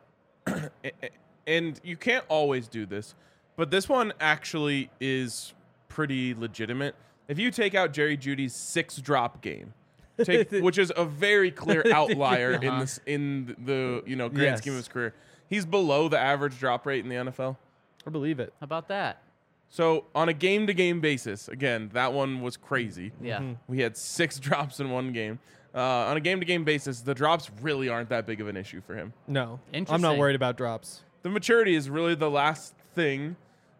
And you can't always do this, but this one actually is pretty legitimate. If you take out Jerry Jeudy's 6-drop game, which is a very clear outlier in the grand Yes. scheme of his career, he's below the average drop rate in the NFL. I believe it. How about that? So on a game-to-game basis, again, that one was crazy. Yeah. We had 6 drops in one game. On a game-to-game basis, the drops really aren't that big of an issue for him. No, I'm not Interesting. worried about drops. The maturity is really the last thing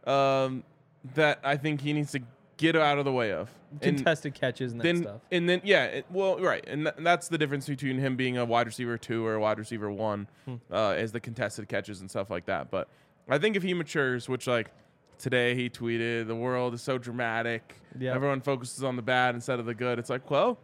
that I think he needs to get out of the way of. Contested catches and that stuff. And then, right. And that's the difference between him being a wide receiver 2 or a wide receiver 1 as the contested catches and stuff like that. But I think if he matures, which today he tweeted, the world is so dramatic. Yep. Everyone focuses on the bad instead of the good. It's like, well,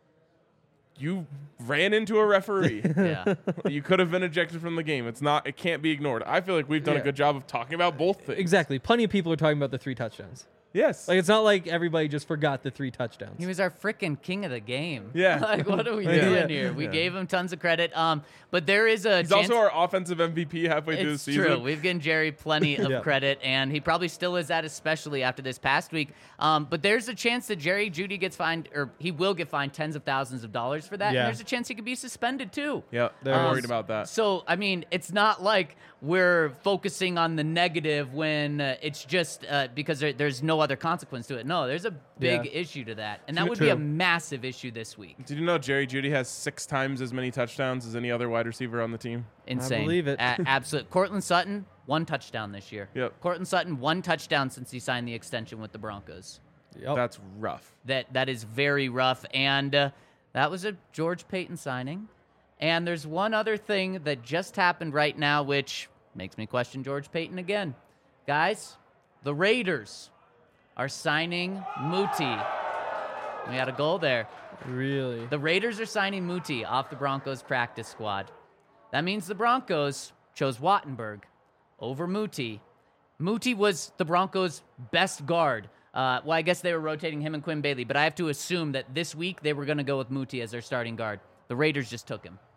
you ran into a referee. Yeah. You could have been ejected from the game. It can't be ignored. I feel like we've done a Yeah. good job of talking about both things. Exactly. Plenty of people are talking about the 3 touchdowns. Yes. Like, it's not like everybody just forgot the 3 touchdowns. He was our freaking king of the game. Yeah. Like, what are we Yeah. doing Yeah. here? We Yeah. gave him tons of credit. But there is a He's chance. also our offensive MVP halfway through the It's season. true. We've given Jerry plenty of Yeah. credit, and he probably still is that, especially after this past week. But there's a chance that Jerry Jeudy gets fined, or he will get fined tens of thousands of dollars for that. Yeah. And there's a chance he could be suspended too. Yeah, I'm worried about that. So, I mean, it's not like we're focusing on the negative when it's just because there's no other consequence to it. No, there's a big issue to that. And that would be a True. massive issue this week. Did you know Jerry Jeudy has 6 times as many touchdowns as any other wide receiver on the team? Insane. believe it. Absolute. Cortland Sutton, 1 touchdown this year. Yep. Cortland Sutton, 1 touchdown since he signed the extension with the Broncos. Yep. That's rough. That is very rough. And that was a George Payton signing. And there's one other thing that just happened right now, which makes me question George Payton again. Guys, the Raiders are signing Muti. We had a goal there. Really? The Raiders are signing Muti off the Broncos practice squad. That means the Broncos chose Wattenberg over Muti. Muti was the Broncos' best guard. Well, I guess they were rotating him and Quinn Bailey, but I have to assume that this week they were going to go with Muti as their starting guard. The Raiders just took him.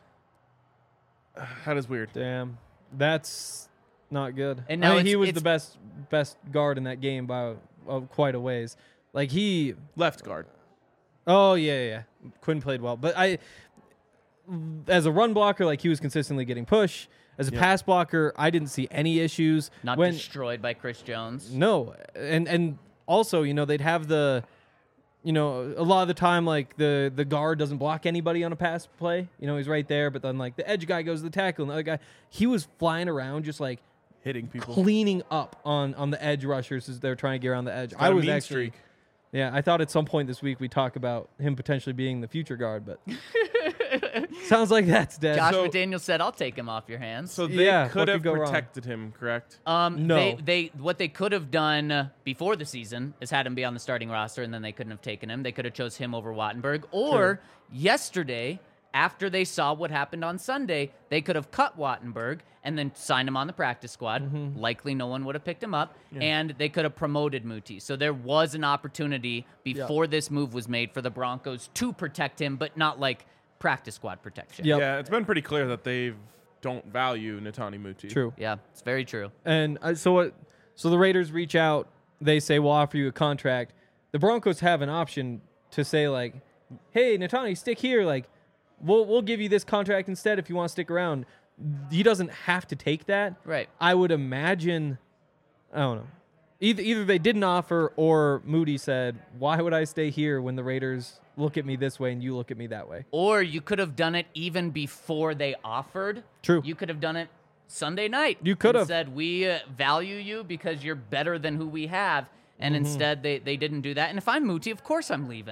That is weird. Damn. That's not good. And now I mean, he was it's- the best guard in that game by quite a ways. Like he. Left guard. Oh yeah. Quinn played well, but as a run blocker, like he was consistently getting push. As a pass blocker, I didn't see any issues. Not when destroyed by Chris Jones. No, and also they'd have a lot of the time like the guard doesn't block anybody on a pass play. He's right there, but then like the edge guy goes to the tackle, and the other guy he was flying around just like Hitting people. cleaning up on the edge rushers as they're trying to get around the edge. Got a I was mean actually. streak. Yeah, I thought at some point this week we talk about him potentially being the future guard, but sounds like that's dead. Josh So- McDaniels said, "I'll take him off your hands." So they Yeah, could what have could go wrong? protected him, correct? No. They what they could have done before the season is had him be on the starting roster, and then they couldn't have taken him. They could have chose him over Wattenberg. Or yesterday, after they saw what happened on Sunday, they could have cut Wattenberg and then signed him on the practice squad. Likely no one would have picked him up, and they could have promoted Muti. So there was an opportunity before this move was made for the Broncos to protect him, but not like practice squad protection. Yep. Yeah, it's been pretty clear that they don't value Netani Muti. True. Yeah, it's very true. And so the Raiders reach out. They say, we'll offer you a contract. The Broncos have an option to say, like, hey, Netani, stick here. Like, we'll give you this contract instead if you want to stick around. He doesn't have to take that. Right. I would imagine, I don't know. Either they didn't offer or Moody said, why would I stay here when the Raiders look at me this way and you look at me that way? Or you could have done it even before they offered. True. You could have done it Sunday night. You could and have. said, we value you because you're better than who we have. And instead, they didn't do that. And if I'm Muti, of course I'm leaving.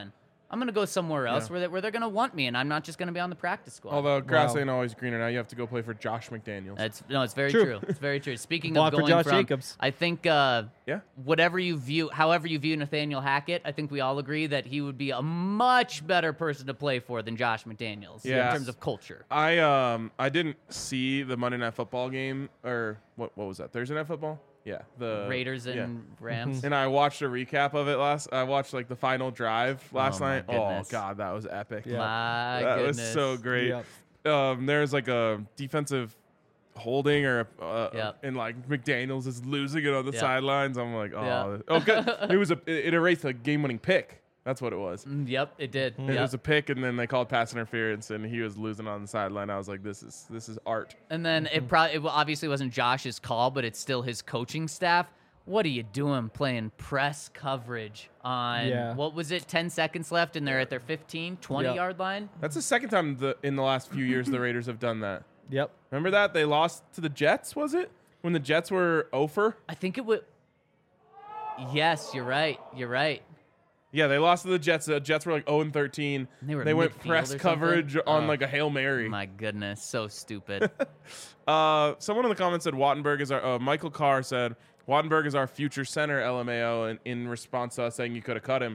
I'm going to go somewhere else where they're going to want me, and I'm not just going to be on the practice squad. Although grass Wow. ain't always greener. Now you have to go play for Josh McDaniels. It's very True. true. It's very true. Speaking Block of for going Josh from, Jacobs. I think however you view Nathaniel Hackett, I think we all agree that he would be a much better person to play for than Josh McDaniels in Yes. terms of culture. I didn't see the Monday Night Football game, or what was that? Thursday Night Football? Yeah, the Raiders and yeah. Rams. And I watched a recap of it I watched like the final drive last my night. goodness. Oh god, that was epic. Yeah. My That goodness. was so great. Yep. There's like a defensive holding or Yep. and like McDaniels is losing it on the Yep. sidelines. I'm like, oh, Yep. okay. It erased a game-winning pick. That's what it was. Yep, it did. It Yep. was a pick, and then they called pass interference, and he was losing on the sideline. I was like, this is art. And then it obviously wasn't Josh's call, but it's still his coaching staff. What are you doing playing press coverage on, Yeah. what was it, 10 seconds left, and they're at their 15, 20-yard line? That's the second time in the last few years the Raiders have done that. Yep. Remember that? They lost to the Jets, was it? When the Jets were over? I think it would. Yes, you're right. You're right. Yeah, they lost to the Jets. The Jets were like 0-13. They were went midfield press or coverage something? on Oh. like a Hail Mary. My goodness, so stupid. Someone in the comments said Wattenberg is our. Michael Carr said Wattenberg is our future center, LMAO, and in response to us saying you could have cut him.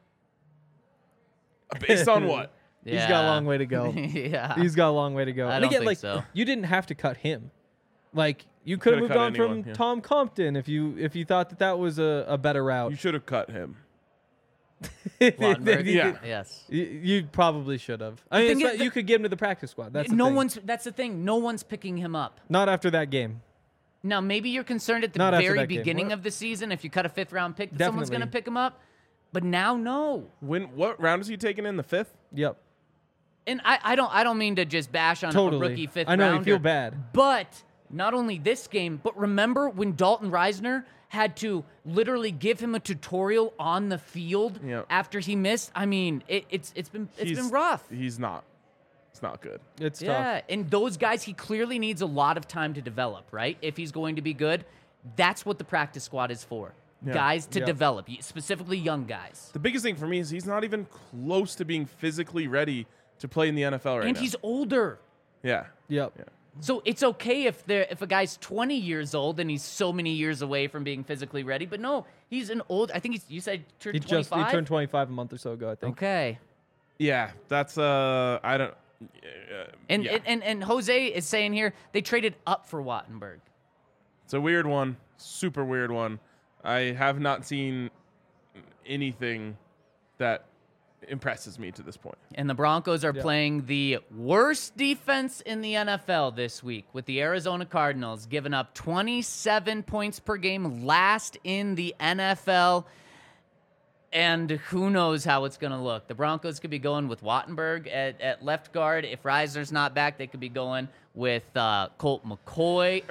Based on what? Yeah. He's got a long way to go. Yeah. He's got a long way to go. I And don't again, think like, so. you didn't have to cut him. Like, you could have Coulda moved cut on anyone, from yeah. Tom Compton if you thought that was a better route. You should have cut him. Wattenberg? Yeah. Yes. You probably should have. I mean, thing it's is not- you could get him to the practice squad. That's the thing. That's the thing. No one's picking him up. Not after that game. Now, maybe you're concerned at the Not after very that game. beginning What? of the season if you cut a 5th-round pick that someone's going to Definitely. pick him up. But now, no. What round is he taking in? The 5th? Yep. And I don't mean to just bash on Totally. a rookie 5th I know, you rounder. feel bad. But not only this game, but remember when Dalton Reisner had to literally give him a tutorial on the field Yep. after he missed? I mean, it's been rough. He's not. It's not good. It's Yeah, tough. and those guys, he clearly needs a lot of time to develop, right? If he's going to be good, that's what the practice squad is for. Yeah. Guys to Yeah. develop, specifically young guys. The biggest thing for me is he's not even close to being physically ready to play in the NFL right And now. he's older. Yeah. Yep. Yeah. So it's okay if a guy's 20 years old and he's so many years away from being physically ready, but no, he's an old. I think you said turned He 25. turned 25 a month or so ago, I think. Okay. Yeah. That's I don't. And, yeah. and Jose is saying here they traded up for Wattenberg. It's a weird one. Super weird one. I have not seen anything that impresses me to this point. And the Broncos are Yeah. playing the worst defense in the NFL this week with the Arizona Cardinals giving up 27 points per game, last in the NFL. And who knows how it's going to look. The Broncos could be going with Wattenberg at left guard. If Reisner's not back, they could be going with Colt McCoy,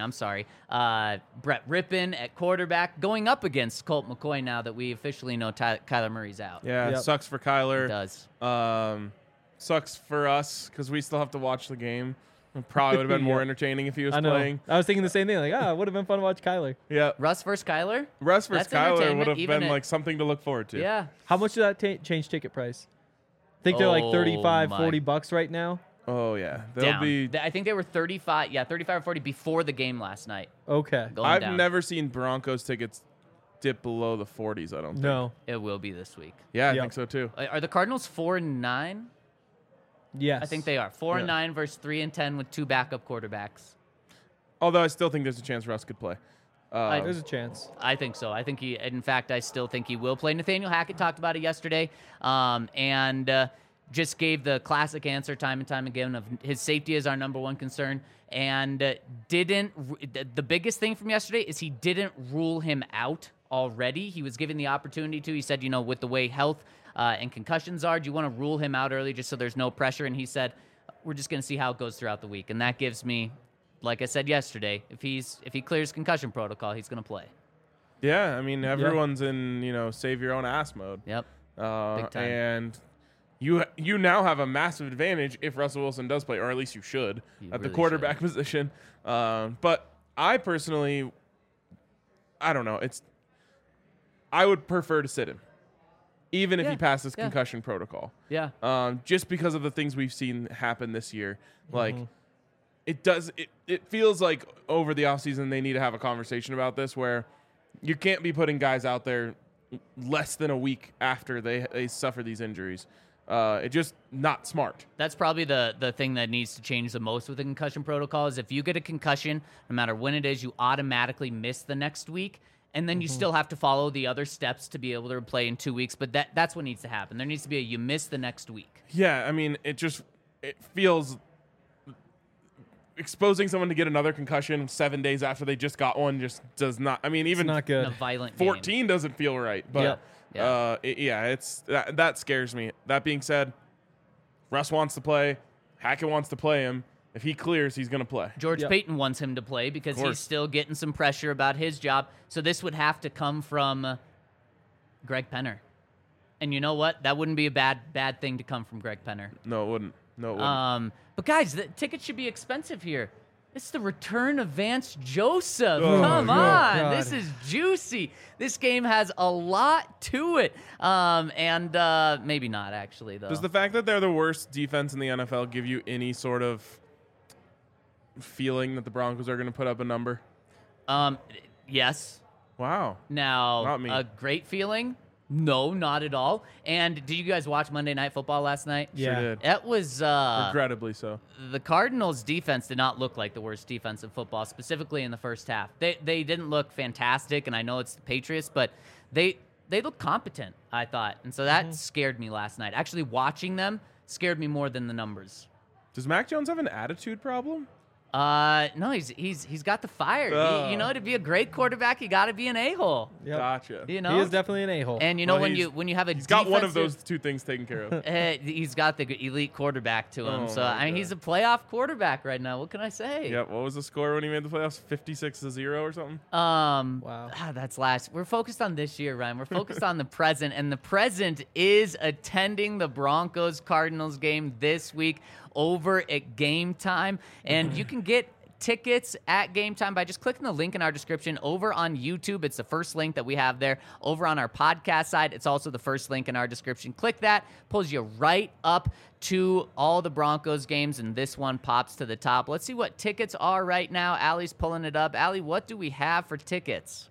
Brett Rippon at quarterback, going up against Colt McCoy now that we officially know Kyler Murray's out. Yeah. Yep. It sucks for It Kyler. does. Sucks for us because we still have to watch the game. It probably would have been more Yeah. entertaining if he was I know. playing. I was thinking the same thing. Like, it would have been fun to watch Kyler. Yeah. Russ versus Kyler? Russ versus That's Kyler entertainment, would have even been at- like something to look forward to. Yeah. How much did that change ticket price? I think they're like Oh, 35, my. $40 right now. Oh yeah. They'll Down. be. I think they were 35 or 40 before the game last night. Okay. Going I've down. never seen Broncos tickets dip below the 40s. I don't think. No. It will be this week. Yeah, I Yep. think so too. Are the Cardinals 4-9? Yes. I think they are 4-9 versus 3-10 with 2 backup quarterbacks. Although I still think there's a chance Russ could play. There's a chance. I think so. I think in fact, I still think he will play. Nathaniel Hackett talked about it yesterday, and just gave the classic answer time and time again of his safety is our number one concern. And the biggest thing from yesterday is he didn't rule him out already. He was given the opportunity to. He said, with the way health and concussions are, do you want to rule him out early just so there's no pressure? And he said, we're just going to see how it goes throughout the week. And that gives me, like I said yesterday, if he clears concussion protocol, he's going to play. Yeah, I mean everyone's in save your own ass mode. Yep. Big time. And you now have a massive advantage if Russell Wilson does play, or at least you should at the really quarterback position. But I personally, I don't know. I would prefer to sit him. even if Yeah, he passes yeah. concussion protocol. Yeah. Just because of the things we've seen happen this year. Like, it feels like over the offseason they need to have a conversation about this where you can't be putting guys out there less than a week after they suffer these injuries. It's just not smart. That's probably the thing that needs to change the most with the concussion protocol is if you get a concussion, no matter when it is, you automatically miss the next week. And then you still have to follow the other steps to be able to play in 2 weeks. But that's what needs to happen. There needs to be you miss the next week. Yeah, I mean, it feels exposing someone to get another concussion 7 days after they just got one just does not. I mean, even It's not good. In a violent 14 game. doesn't feel right. But Yep. it's that scares me. That being said, Russ wants to play. Hackett wants to play him. If he clears, he's going to play. George Yep. Payton wants him to play because he's still getting some pressure about his job. So this would have to come from Greg Penner. And you know what? That wouldn't be a bad thing to come from Greg Penner. No, it wouldn't. But guys, the tickets should be expensive here. It's the return of Vance Joseph. Oh, Come on. God. This is juicy. This game has a lot to it. And maybe not, actually, though. Does the fact that they're the worst defense in the NFL give you any sort of feeling that the Broncos are going to put up a number? Yes. Wow. Now, Not me. a great feeling? No, not at all. And did you guys watch Monday Night Football last night? Yeah. Sure did. It was Regrettably so. the Cardinals' defense did not look like the worst defense in football, specifically in the first half. They didn't look fantastic, and I know it's the Patriots, but they look competent, I thought. And so that scared me last night. Actually, watching them scared me more than the numbers. Does Mac Jones have an attitude problem? No, he's got the fire. To be a great quarterback, you got to be an a-hole. Yep. Gotcha. You know, He is definitely an a-hole. and you know Well, when you have a He's got one of defensive- those two things taken care of. he's got the elite quarterback to him. Oh, So my I mean, God. he's a playoff quarterback right now. What can I say? Yep. What was the score when he made the playoffs? 56-0 or something? Wow. That's last. We're focused on this year, Ryan. We're focused on the present, and the present is attending the Broncos Cardinals game this week over at Game Time, and you can get tickets at Game Time by just clicking the link in our description over on YouTube. It's the first link that we have there. Over on our podcast side, it's also the first link in our description. Click that, pulls you right up to all the Broncos games, and this one pops to the top. Let's see what tickets are right now. Allie's pulling it up. Allie, what do we have for tickets?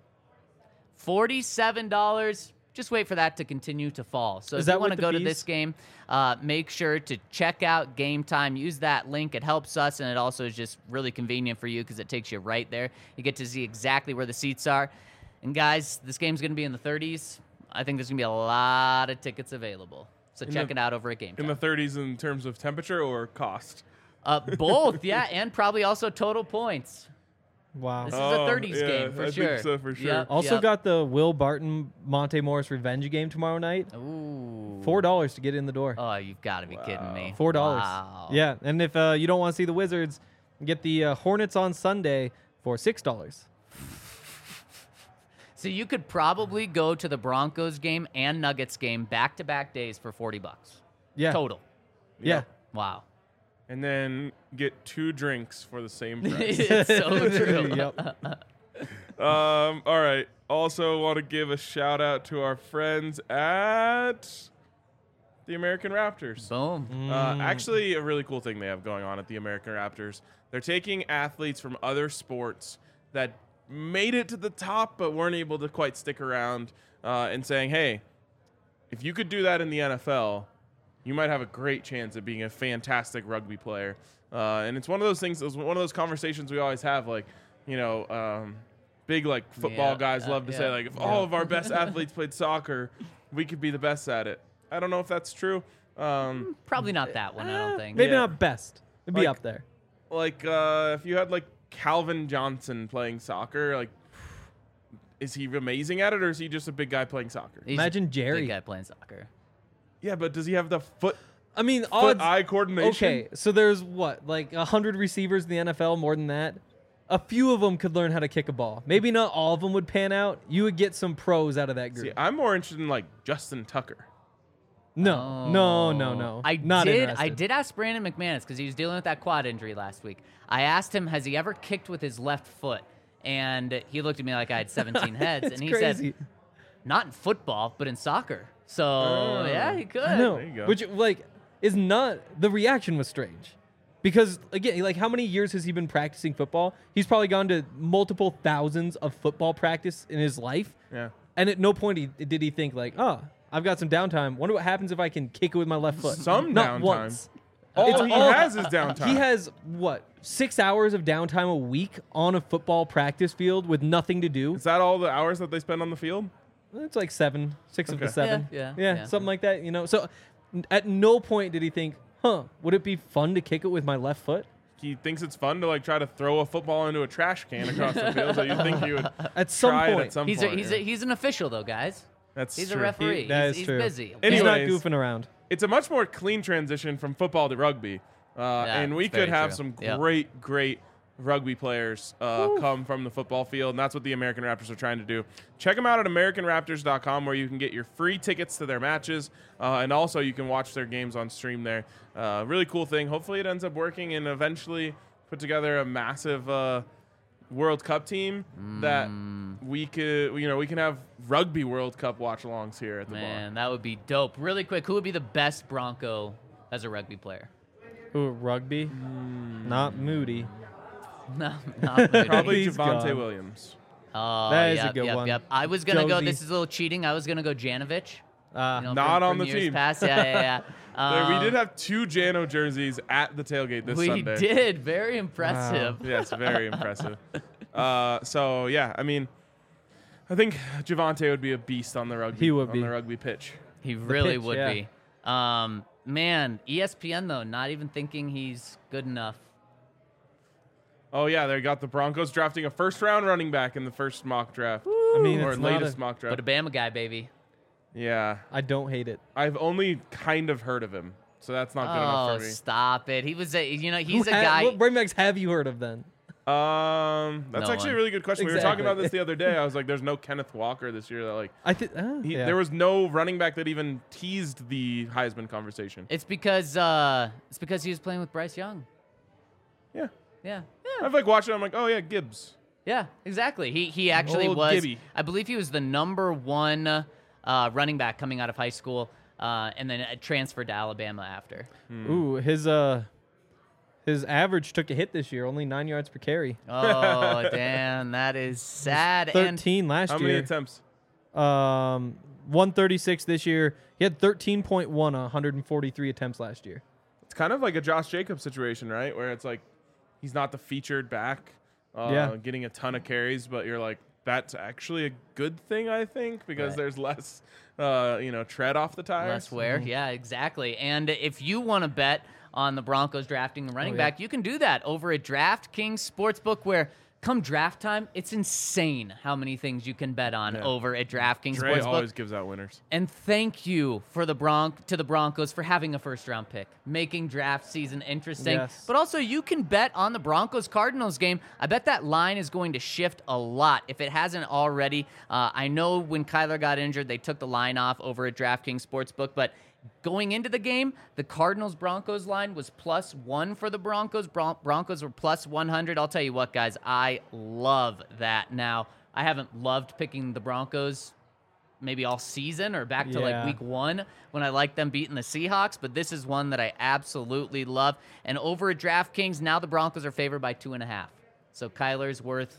$47. Just wait for that to continue to fall. So Is if that you want to with the go to fees? this game, make sure to check out Game Time. Use that link. It helps us, and it also is just really convenient for you because it takes you right there. You get to see exactly where the seats are. And guys, this game's going to be in the 30s. I think there's going to be a lot of tickets available. So check it out over at Game In Time. the 30s in terms of temperature or cost? Both, yeah, and probably also total points. Wow. This is a 30s game for I sure. think so for sure. Yep. Also Yep. got the Will Barton Monte Morris revenge game tomorrow night. Ooh. $4 to get in the door. Oh, you've got to be kidding me. $4. Wow. Yeah, and if you don't want to see the Wizards, get the Hornets on Sunday for $6. So you could probably go to the Broncos game and Nuggets game back-to-back days for $40 Yeah. total. Yeah. Wow. And then get 2 drinks for the same price. It's so true. Yep. All right. Also want to give a shout out to our friends at the American Raptors. Boom. Actually, a really cool thing they have going on at the American Raptors. They're taking athletes from other sports that made it to the top but weren't able to quite stick around and saying, hey, if you could do that in the NFL, you might have a great chance at being a fantastic rugby player. And it's one of those things, it's one of those conversations we always have, like, big like football Yeah, guys love to say, yeah. like, if all of our best athletes played soccer, we could be the best at it. I don't know if that's true. Probably not that one, I don't think. Maybe Yeah. not best. It'd be Like- up there. Like, if you had like Calvin Johnson playing soccer, like, is he amazing at it, or is he just a big guy playing soccer? He's Imagine a Jerry. big guy playing soccer. Yeah, but does he have the I mean, odds. foot-eye coordination? Okay, so there's what, like 100 receivers in the NFL, more than that. A few of them could learn how to kick a ball. Maybe not all of them would pan out. You would get some pros out of that group. See, I'm more interested in like Justin Tucker. No. I Not did. interested. I did ask Brandon McManus because he was dealing with that quad injury last week. I asked him, has he ever kicked with his left foot? And he looked at me like I had 17 heads, It's and he crazy. said, not in football, but in soccer. So yeah, he could. I know. There you go. Which like is not the reaction was strange. Because again, like how many years has he been practicing football? He's probably gone to multiple thousands of football practice in his life. Yeah. And at no point did he think like, "Oh, I've got some downtime. Wonder what happens if I can kick it with my left foot." Some Not downtime. once. All he has is downtime. He has what 6 hours of downtime a week on a football practice field with nothing to do. Is that all the hours that they spend on the field? It's like 6 of the Okay. 7. Yeah. Something like that. So at no point did he think, would it be fun to kick it with my left foot? He thinks it's fun to like try to throw a football into a trash can across the field. So you think he would At some try it point. at some He's point. yeah. he's an official though, guys. That's He's true. a referee. That he's is true. busy. Anyway. He's not Anyways. goofing around. It's a much more clean transition from football to rugby. And we it's could very have true. some Yep. great rugby players come from the football field, and that's what the American Raptors are trying to do. Check them out at AmericanRaptors.com, where you can get your free tickets to their matches, and also you can watch their games on stream there. Really cool thing. Hopefully it ends up working and eventually put together a massive World Cup team that we can have rugby World Cup watch-alongs here at the bar. Man, that would be dope. Really quick, who would be the best Bronco as a rugby player? Ooh, rugby? Not Moody. No, not Moody. Probably He's Javante gone. Williams. Oh, That is a yep, good yep, one. Yep. I was gonna go. Josie. This is a little cheating. I was gonna go Janovich. You know, Not from on the years team. Past. Yeah. We did have 2 Jano jerseys at the tailgate this We Sunday. did. Very impressive. Yes, very impressive. So yeah, I mean, I think Javante would be a beast on the rugby. He would on be. the rugby pitch. He really pitch, would yeah. be. Man, ESPN though, not even thinking he's good enough. Oh yeah, they got the Broncos drafting a first-round running back in the first mock draft, I mean, or it's not latest a, mock But draft. a Bama guy, baby. Yeah, I don't hate it. I've only kind of heard of him, so that's not good Oh, enough for me. stop it. He was he's a What guy. running backs have you heard of then? That's No actually one. a really good question. We were talking Exactly. about this the other day. I was like, "There's no Kenneth Walker this year." That like, I think there was no running back that even teased the Heisman conversation. It's because he was playing with Bryce Young. Yeah, Yeah. I've like watched it. I'm like, "Oh yeah, Gibbs." Yeah, exactly. He actually Old was. Gibby. I believe he was the number 1 running back coming out of high school, and then transferred to Alabama after. Ooh, his average took a hit this year, only 9 yards per carry. Oh, damn, that is sad. And 13 last How many year. attempts? 136 this year. He had 13.1 on 143 attempts last year. It's kind of like a Josh Jacobs situation, right? Where it's like he's not the featured back, Yeah. getting a ton of carries, but you're like, that's actually a good thing, I think, because Right. there's less, tread off the tires. less wear. Yeah, exactly. And if you want to bet on the Broncos drafting a running yeah. back, you can do that over at DraftKings Sportsbook, where come draft time, it's insane how many things you can bet on Yeah. over at DraftKings Dre Sportsbook. always gives out winners. And thank you for the Broncos for having a first-round pick, making draft season interesting. Yes. But also, you can bet on the Broncos-Cardinals game. I bet that line is going to shift a lot if it hasn't already. I know when Kyler got injured, they took the line off over at DraftKings Sportsbook, but going into the game, the Cardinals-Broncos line was +1 for the Broncos. Broncos were +100. I'll tell you what, guys, I love that. Now, I haven't loved picking the Broncos maybe all season or back to like Yeah. week 1 when I like them beating the Seahawks, but this is one that I absolutely love. And over at DraftKings, now the Broncos are favored by 2.5. So Kyler's worth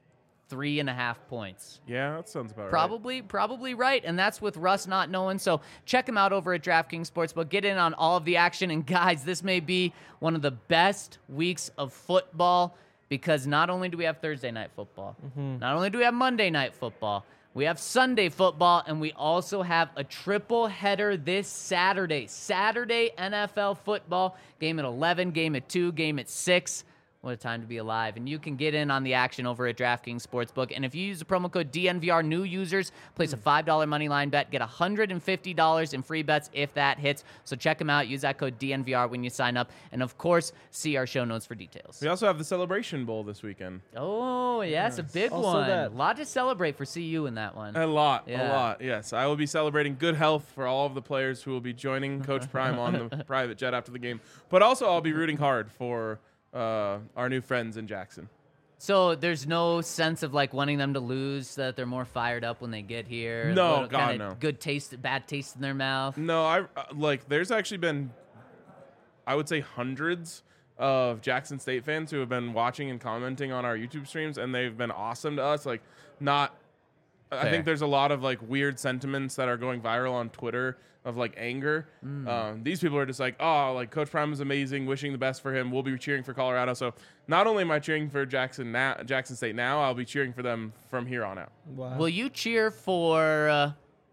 3.5 points. Yeah, that sounds about right. Probably right, and that's with Russ not knowing. So check him out over at DraftKings Sportsbook. Get in on all of the action, and guys, this may be one of the best weeks of football because not only do we have Thursday night football, not only do we have Monday night football, we have Sunday football, and we also have a triple header this Saturday. Saturday NFL football, game at 11, game at 2, game at 6. What a time to be alive. And you can get in on the action over at DraftKings Sportsbook. And if you use the promo code DNVR, new users place a $5 money line bet, get $150 in free bets if that hits. So check them out. Use that code DNVR when you sign up. And of course, see our show notes for details. We also have the Celebration Bowl this weekend. Oh, yes, a big Also one. that. A lot to celebrate for CU in that one. A lot. Yeah. Yes, I will be celebrating good health for all of the players who will be joining Coach Prime on the private jet after the game. But also, I'll be rooting hard for our new friends in Jackson. So there's no sense of like wanting them to lose, so that they're more fired up when they get here. No, A little God, kinda no. Good taste, bad taste in their mouth. No, I like. There's actually been, I would say, hundreds of Jackson State fans who have been watching and commenting on our YouTube streams, and they've been awesome to us. Like, not. I Fair. think there's a lot of like weird sentiments that are going viral on Twitter of like anger. These people are just like, oh, like Coach Prime is amazing, wishing the best for him. We'll be cheering for Colorado. So not only am I cheering for Jackson State now, I'll be cheering for them from here on out. Wow. Will you cheer for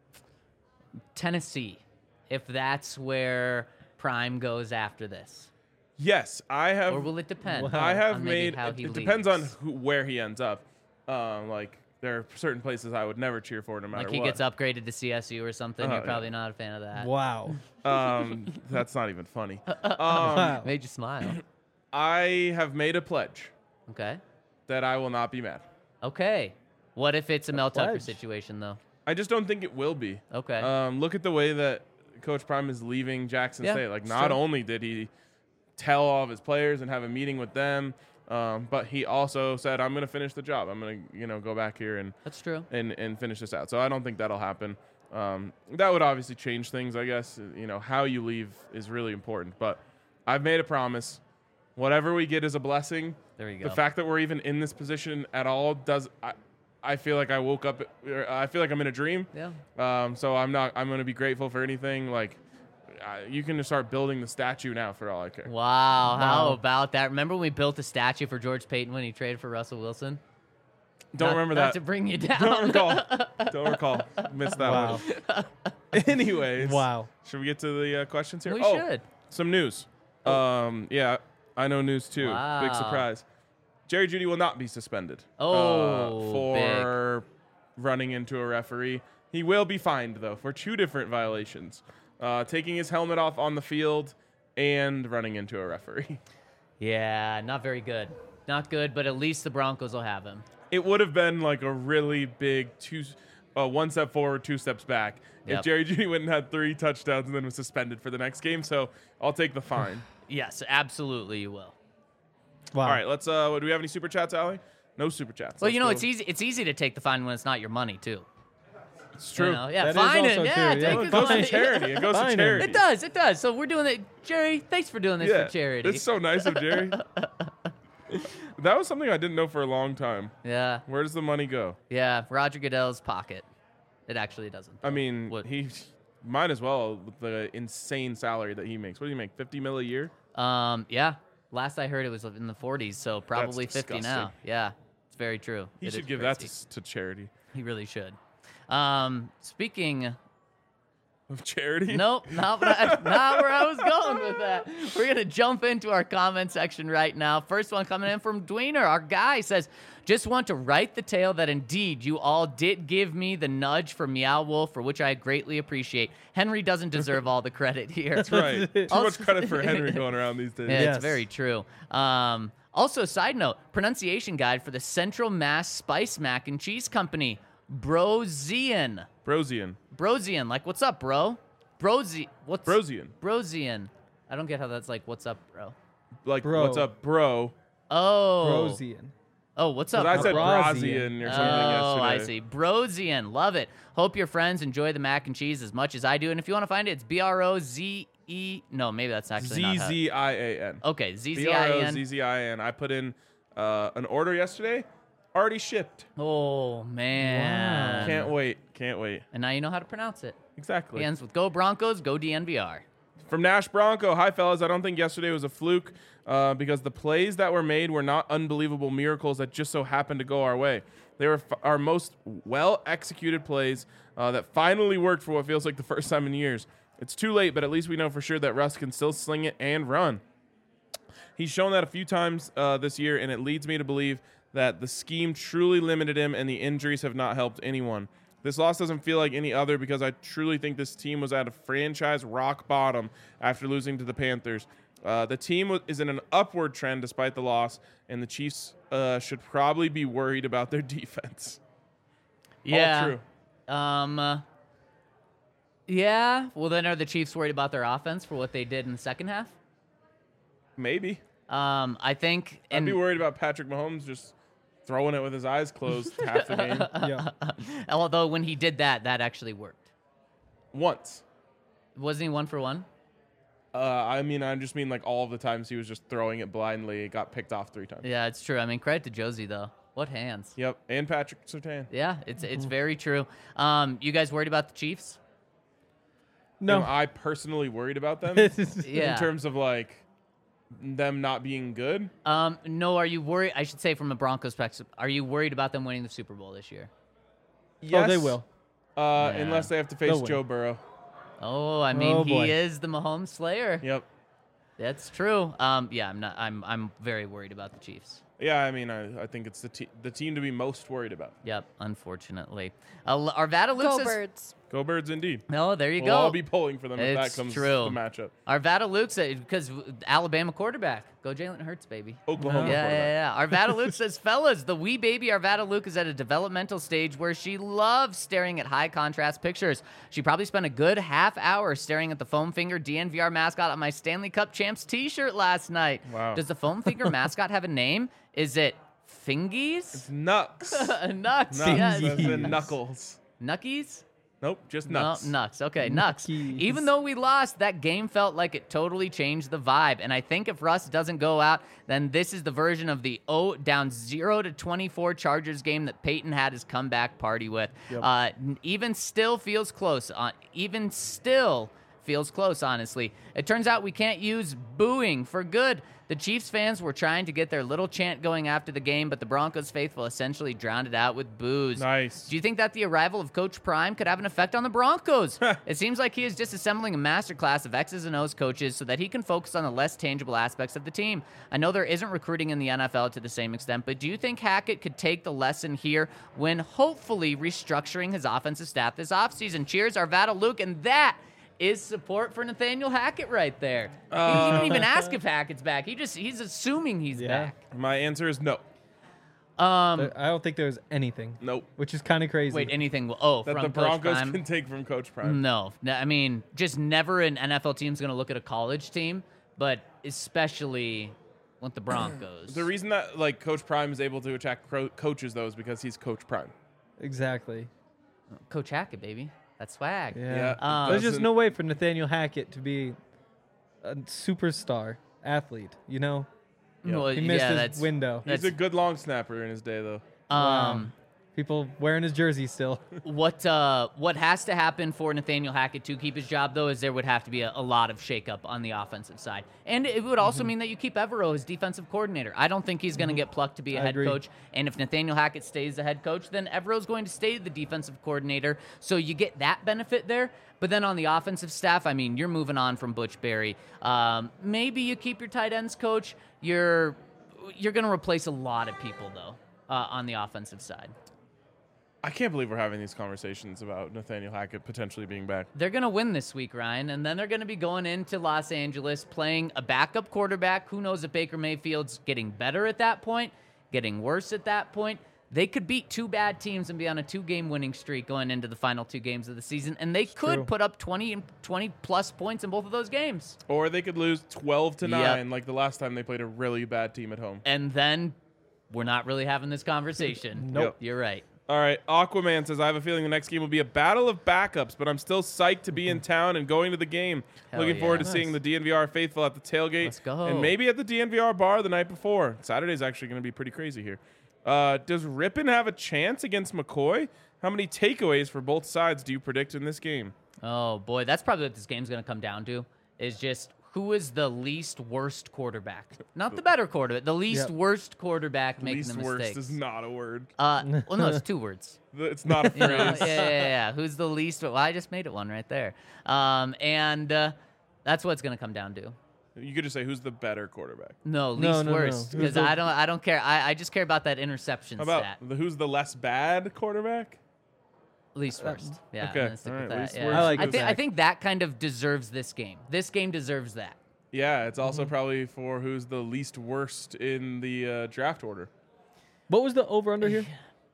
Tennessee if that's where Prime goes after this? Yes, I have. Or will it depend? Wow. I have on maybe made. how It he depends on leaves? where he ends up. Like there are certain places I would never cheer for, no matter Like he what. gets upgraded to CSU or something. You're yeah. probably not a fan of that. Wow. That's not even funny. Wow. Made you smile. I have made a pledge Okay. that I will not be mad. Okay. What if it's a Mel Tucker pledge. situation though? I just don't think it will be. Okay. Look at the way that Coach Prime is leaving Jackson Yeah, State. Like, it's not true. only did he tell all of his players and have a meeting with them, but he also said, "I'm going to finish the job. I'm going to, go back here and That's true. and finish this out." So I don't think that'll happen. That would obviously change things, I guess. How you leave is really important. But I've made a promise. Whatever we get is a blessing. There you go. The fact that we're even in this position at all I feel like I woke up. I feel like I'm in a dream. Yeah. So I'm going to be grateful for anything. Like, you can just start building the statue now for all I care. Wow. How Wow. about that? Remember when we built a statue for George Payton when he traded for Russell Wilson? Don't remember Not that. to bring you down. Don't recall. Don't recall. Missed that Wow. one. Anyways. Wow. Should we get to the questions here? We Oh, should. some news. Yeah, I know news too. Big Wow. surprise. Jerry Jeudy will not be suspended for running into a referee. He will be fined, though, for 2 different violations. Taking his helmet off on the field and running into a referee. Yeah, not very good. Not good, but at least the Broncos will have him. It would have been like a really big 1 step forward, 2 steps back Yep. if Jerry Jeudy went and had 3 touchdowns and then was suspended for the next game. So I'll take the fine. Yes, absolutely you will. Wow. All right, let's. Do we have any super chats, Allie? No super chats. Well, Let's go. it's easy. It's easy to take the fine when it's not your money, too. It's true. Yeah, That is fine also it. Yeah, true, yeah. take It his goes money. to charity. It goes to Fine him. charity. It does. It does. So we're doing it. Jerry, thanks for doing this Yeah, for charity. it's so nice of Jerry. That was something I didn't know for a long time. Yeah. Where does the money go? Yeah. Roger Goodell's pocket. It actually doesn't. I mean, What? he might as well with the insane salary that he makes. What do you make? 50 mil a year? Yeah. Last I heard, it was in the 40s, so probably 50 now. disgusting. Yeah, it's very true. He It should is give crazy. that to charity. He really should. Speaking. Of charity? Nope, not where I was going with that. We're going to jump into our comment section right now. First one coming in from Dweener. Our guy says, just want to write the tale that indeed you all did give me the nudge for Meow Wolf, for which I greatly appreciate. Henry doesn't deserve all the credit here. That's right. Too Also- much credit for Henry going around these days. Yeah, Yes. it's very true. Also, side note, pronunciation guide for the Central Mass Spice Mac and Cheese Company. Brozian. Brosian. Like, what's up, bro? What's Brosian. Brosian. I don't get how that's like, what's up, bro? Like, Bro. what's up, bro? Oh. Brosian. Oh, what's up? 'Cause I said Brosian. Brosian or something Oh, yesterday. I see. Brosian. Love it. Hope your friends enjoy the mac and cheese as much as I do. And if you want to find it, it's BROZE. No, maybe that's actually not how. ZZIAN. Okay, ZZIN. BROZZIAN. I put in an order yesterday. Already shipped. Oh, man. Can't wait. And now you know how to pronounce it. Exactly. It ends with Go Broncos, Go DNVR. From Nash Bronco. Hi, fellas. I don't think yesterday was a fluke because the plays that were made were not unbelievable miracles that just so happened to go our way. They were our most well-executed plays that finally worked for what feels like the first time in years. It's too late, but at least we know for sure that Russ can still sling it and run. He's shown that a few times this year, and it leads me to believe that the scheme truly limited him and the injuries have not helped anyone. This loss doesn't feel like any other because I truly think this team was at a franchise rock bottom after losing to the Panthers. The team is in an upward trend despite the loss, and the Chiefs should probably be worried about their defense. Yeah. All true. Yeah. Well, then are the Chiefs worried about their offense for what they did in the second half? Maybe. I think. I'd be worried about Patrick Mahomes just throwing it with his eyes closed half the game. Yeah. Although when he did that actually worked. Once. Wasn't he 1 for 1? I just mean like all of the times he was just throwing it blindly. It got picked off 3 times. Yeah, it's true. I mean, credit to Josie though. What hands? Yep, and Patrick Surtain. Yeah, it's very true. You guys worried about the Chiefs? No. Am I personally worried about them Yeah. in terms of like them not being good? No. Are you worried? I should say from a Broncos perspective, are you worried about them winning the Super Bowl this year? Yes. Oh, they will. Unless they have to face They'll win. Joe Burrow. Oh, I mean, Oh, boy. he is the Mahomes Slayer. Yep. That's true. Yeah, I'm very worried about the Chiefs. Yeah, I mean, I think it's the team to be most worried about. Yep, unfortunately. Arvada Luke Go says, Birds. Go Birds, indeed. oh, there you We'll go. all be pulling for them if It's that comes true. to the matchup. Arvada Luke says, because Alabama quarterback. Go Jalen Hurts, baby. Oklahoma Yeah, quarterback. yeah, yeah. Arvada Luke says, fellas, the wee baby Arvada Luke is at a developmental stage where she loves staring at high contrast pictures. She probably spent a good half hour staring at the foam finger DNVR mascot on my Stanley Cup Champs t-shirt last night. Wow. Does the foam finger mascot have a name? Is it Fingies? Nux. Nux, Nux. yes. As in Knuckles. Nuckies? Nope, just No, Nux. Nux. Okay, Nux. Nuckies. Even though we lost, that game felt like it totally changed the vibe. And I think if Russ doesn't go out, then this is the version of the down 0-24 Chargers game that Peyton had his comeback party with. Even still feels close. Honestly. It turns out we can't use booing for good. The Chiefs fans were trying to get their little chant going after the game, but the Broncos faithful essentially drowned it out with boos. Nice. Do you think that the arrival of Coach Prime could have an effect on the Broncos? It seems like he is disassembling a masterclass of X's and O's coaches so that he can focus on the less tangible aspects of the team. I know there isn't recruiting in the NFL to the same extent, but do you think Hackett could take the lesson here when hopefully restructuring his offensive staff this offseason? Cheers, Arvada Luke, and that is support for Nathaniel Hackett right there. He didn't even ask if Hackett's back. He's assuming he's Yeah. back. My answer is no. I don't think there's anything. Nope. Which is kind of crazy. Wait, anything? Oh, That from the Coach Broncos Prime? can take from Coach Prime. No, I mean, just never an NFL team's going to look at a college team, but especially with the Broncos. The reason that like Coach Prime is able to attack coaches though is because he's Coach Prime. Exactly. Coach Hackett, baby. That's swag. Yeah. Yeah, There's just doesn't- no way for Nathaniel Hackett to be a superstar athlete, you know? Yeah. Well, He missed yeah, his that's window. He's a good long snapper in his day though. People wearing his jersey still. What has to happen for Nathaniel Hackett to keep his job, though, is there would have to be a lot of shakeup on the offensive side. And it would also mean that you keep Evero as defensive coordinator. I don't think he's going to get plucked to be a I head agree. coach. And if Nathaniel Hackett stays the head coach, then Evero's going to stay the defensive coordinator. So you get that benefit there. But then on the offensive staff, I mean, you're moving on from Butch Berry. Maybe you keep your tight ends coach. You're going to replace a lot of people, though, on the offensive side. I can't believe we're having these conversations about Nathaniel Hackett potentially being back. They're going to win this week, Ryan, and then they're going to be going into Los Angeles playing a backup quarterback. Who knows if Baker Mayfield's getting better at that point, getting worse at that point. They could beat 2 bad teams and be on a 2-game winning streak going into the final 2 games of the season, and they could true. put up 20-plus points in both of those games. Or they could lose 12-9 Yep. like the last time they played a really bad team at home. And then we're not really having this conversation. Nope. You're right. All right, Aquaman says, I have a feeling the next game will be a battle of backups, but I'm still psyched to be in town and going to the game. Hell Looking forward to yeah. seeing the DNVR faithful at the tailgate. Let's go. And maybe at the DNVR bar the night before. Saturday's actually going to be pretty crazy here. Does Rippon have a chance against McCoy? How many takeaways for both sides do you predict in this game? Oh, boy, that's probably what this game's going to come down to, is just who is the least worst quarterback. Not the better quarterback, the least Yep. worst quarterback making Least the worst mistakes. is not a word. Well, no, it's 2 words. It's not a You know? phrase. Yeah. Who's the least? Well, I just made it one right there. And that's what it's going to come down to. You could just say, who's the better quarterback? No, least no. worst, Who's because the- I don't care. I just care about that interception How about stat. who's the less bad quarterback? Least worst. Yeah. Okay, I'm gonna stick all with right, that. least Yeah. worst. I like I that. think that kind of deserves this game. This game deserves that. Yeah, it's also probably for who's the least worst in the draft order. What was the over-under here?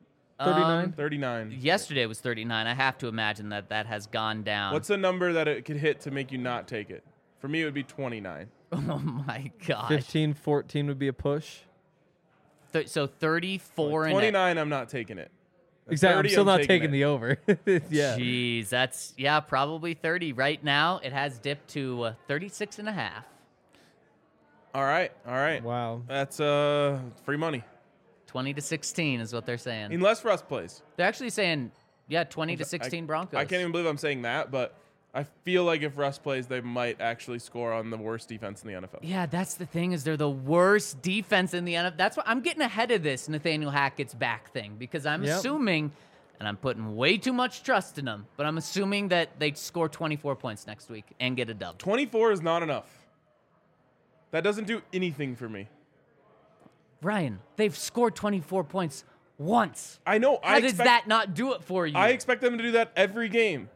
39? 39. Yesterday was 39. I have to imagine that has gone down. What's a number that it could hit to make you not take it? For me, it would be 29. Oh my gosh. 15, 14 would be a push. So 34 and 29, I'm not taking it. Exactly. I'm 30, still not taking taking it. the over. Yeah. Jeez, that's probably 30 right now. It has dipped to 36 and a half. All right. Wow. That's free money. 20-16 is what they're saying. Unless Russ plays. They're actually saying 20-16 Broncos. I can't even believe I'm saying that, but I feel like if Russ plays, they might actually score on the worst defense in the NFL. Yeah, that's the thing is they're the worst defense in the NFL. That's why I'm getting ahead of this Nathaniel Hackett's back thing because I'm assuming, and I'm putting way too much trust in them, but I'm assuming that they score 24 points next week and get a dub. 24 is not enough. That doesn't do anything for me. Ryan, they've scored 24 points once. I know. How does that not do it for you? I expect them to do that every game.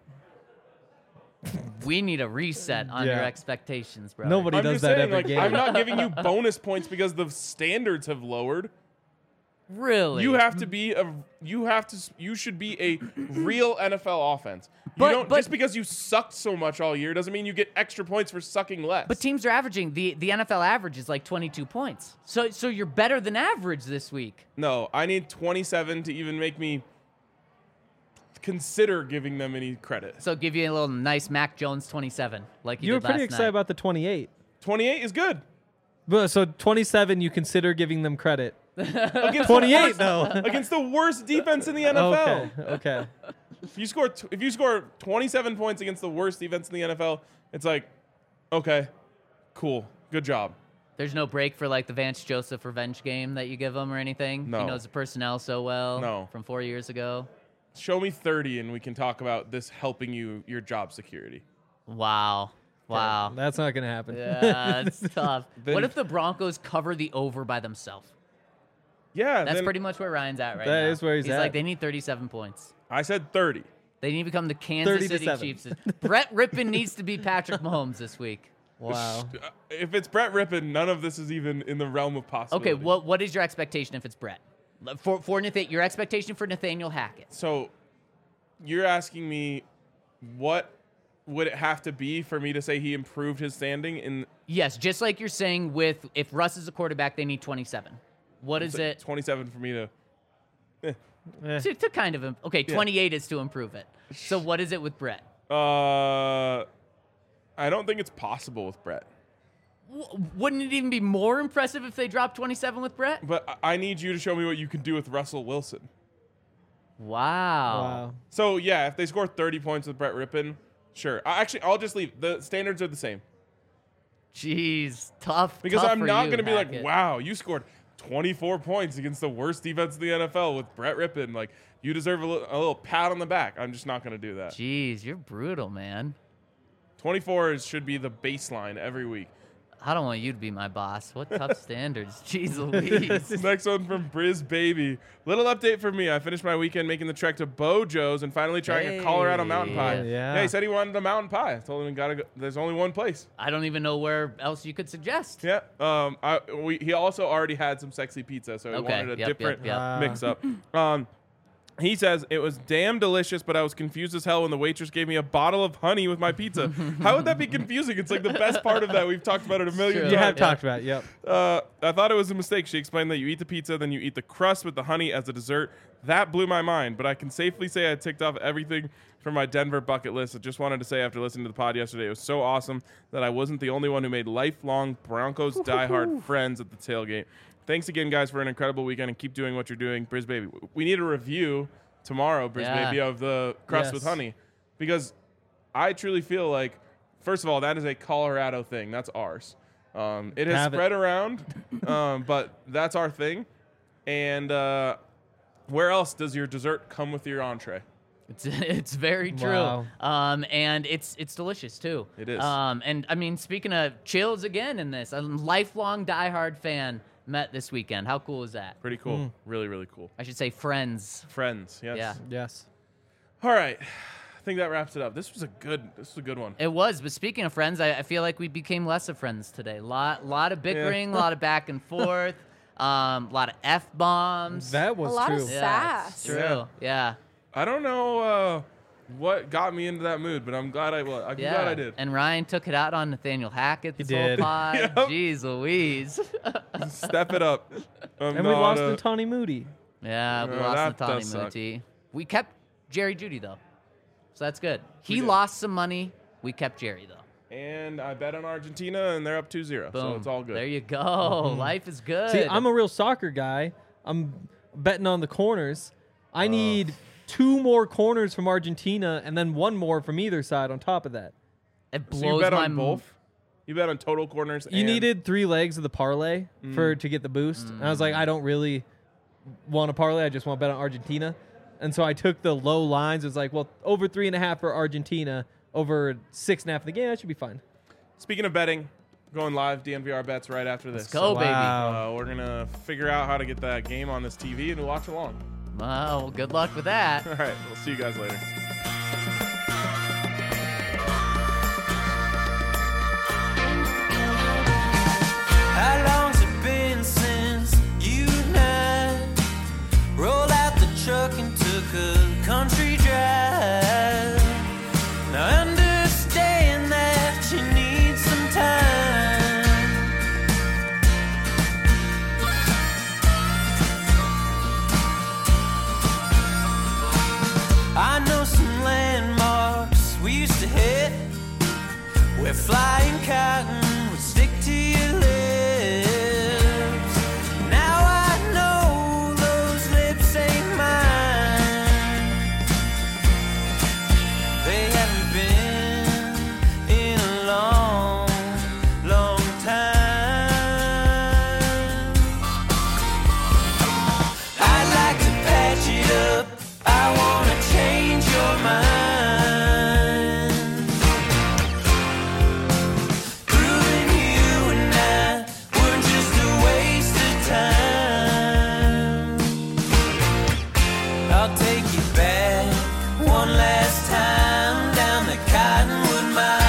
We need a reset on your Yeah. expectations, bro. Nobody I'm does just that saying, every like, game. I'm not giving you bonus points because the standards have lowered. Really? You have to be you should be a real NFL offense. But- Just because you sucked so much all year doesn't mean you get extra points for sucking less. But teams are averaging the NFL average is like 22 points. So you're better than average this week. no, I need 27 to even make me consider giving them any credit. So give you a little nice Mac Jones 27 like You were did pretty last excited night. about the 28. 28 is good. But so 27, you consider giving them credit. Against 28 though. against the worst defense in the NFL. Okay. If you score 27 points against the worst defense in the NFL, it's like, okay, cool, good job. There's no break for like the Vance Joseph revenge game that you give him or anything. No. He knows the personnel so well. No. From 4 years ago. Show me 30 and we can talk about this helping you your job security. Wow. Wow. That's not going to happen. Yeah, that's tough. Then- What if the Broncos cover the over by themselves? Yeah, That's then pretty much where Ryan's at right now. That is where he's like, at. they need 37 points. I said 30. They need to become the Kansas City 30-7. Chiefs. Brett Rippon needs to be Patrick Mahomes this week. Wow. If it's Brett Rippon, none of this is even in the realm of possibility. Okay, what is your expectation if it's Brett? Your expectation for Nathaniel Hackett. So you're asking me what would it have to be for me to say he improved his standing in Yes, just like you're saying with if Russ is a quarterback, they need 27. What is it 27 for me to to kind of okay? 28 is to improve it. So what is it with Brett? I don't think it's possible with Brett. Wouldn't it even be more impressive if they dropped 27 with Brett? But I need you to show me what you can do with Russell Wilson. Wow. Wow. So yeah, if they score 30 points with Brett Rippon, sure. I'll just leave. The standards are the same. Jeez, tough. Because tough I'm for not you, going to be like, Hackett. wow, you scored 24 points against the worst defense in the NFL with Brett Rippon. Like, you deserve a little pat on the back. I'm just not going to do that. Jeez, you're brutal, man. 24 should be the baseline every week. I don't want you to be my boss. What tough standards. Jeez Louise. Next one from Briz Baby. Little update for me. I finished my weekend making the trek to Bojo's and finally trying a Colorado mountain pie. Hey. Yeah. He said he wanted a mountain pie. I told him there's only one place. I don't even know where else you could suggest. Yeah. He also already had some sexy pizza, so he Okay. wanted a Yep, different yep. mix up. He says, it was damn delicious, but I was confused as hell when the waitress gave me a bottle of honey with my pizza. How would that be confusing? It's like the best part of that. We've talked about it a million True. times. You have Yeah. talked about it. Yep. I thought it was a mistake. She explained that you eat the pizza, then you eat the crust with the honey as a dessert. That blew my mind, but I can safely say I ticked off everything from my Denver bucket list. I just wanted to say after listening to the pod yesterday, it was so awesome that I wasn't the only one who made lifelong Broncos diehard friends at the tailgate. Thanks again, guys, for an incredible weekend, and keep doing what you're doing. Briz Baby. We need a review tomorrow, Briz Yeah. Baby, of the crust with Yes. honey, because I truly feel like, first of all, that is a Colorado thing. That's ours. It has Have it. spread around, but that's our thing. And where else does your dessert come with your entree? It's very true. Wow. And it's delicious too. It is. And I mean, speaking of chills again in this, a lifelong diehard fan met this weekend. How cool is that? Pretty cool. Really, really cool. I should say friends. Friends, yes. Yeah. Yes. All right. I think that wraps it up. This was a good one. It was, but speaking of friends, I feel like we became less of friends today. Lot of bickering, a lot of back and forth, lot of f-bombs. That was A lot true. of yeah, sass. it's true. Yeah. I don't know. what got me into that mood, but I'm glad I'm glad I did. And Ryan took it out on Nathaniel Hackett this whole did. pod. Yep. Jeez Louise. Step it up. And we lost to Tawny Moody. Yeah, we No, lost that Nathani does suck. Muti. We kept Jerry Judy, though. So that's good. We He did. lost some money. We kept Jerry, though. And I bet on Argentina, and they're up 2-0. Boom. So it's all good. There you go. Life is good. See, I'm a real soccer guy. I'm betting on the corners. I need 2 more corners from Argentina and then 1 more from either side on top of that. It So blows you bet my on both? You bet on total corners? You and needed 3 legs of the parlay to get the boost. And I was like, I don't really want a parlay. I just want to bet on Argentina. And so I took the low lines. It was like, well, over 3.5 for Argentina, over 6.5 for the game. That should be fine. Speaking of betting, going live, DNVR bets right after this. Let's go, baby. We're going to figure out how to get that game on this TV and watch along. Well, good luck with that. All right, we'll see you guys later. How long's it been since you and I rolled out the truck and took a country drive? Now understand that you need some time. I know some landmarks we used to hit where flying cotton would stick to your lips. Now I know those lips ain't mine. They haven't been in a long, long time. I'd like to patch it up. I wanna change your mind. Proving you and I were just a waste of time. I'll take you back one last time down the Cottonwood Mine.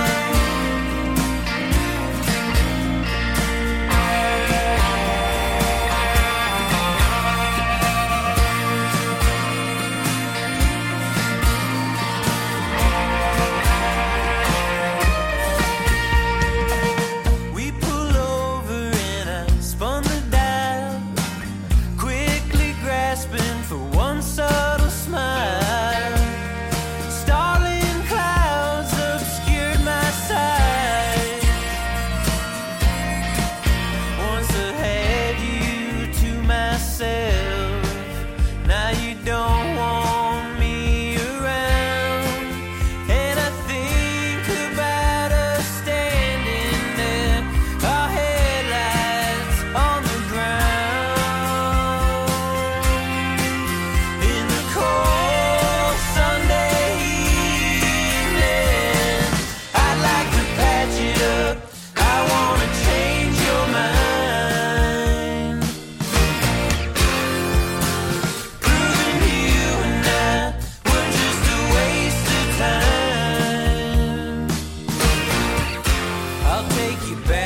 We pull over and I spun the dial, quickly grasping for one subtle smile. Starling clouds obscured my sight. Once I had you to myself, now you don't want me around. And I think about us standing there, our headlights on the ground. In the cold Sunday evening, I'd like to patch it up. I wanna change your mind. Proving you and I were just a waste of time. I'll take you back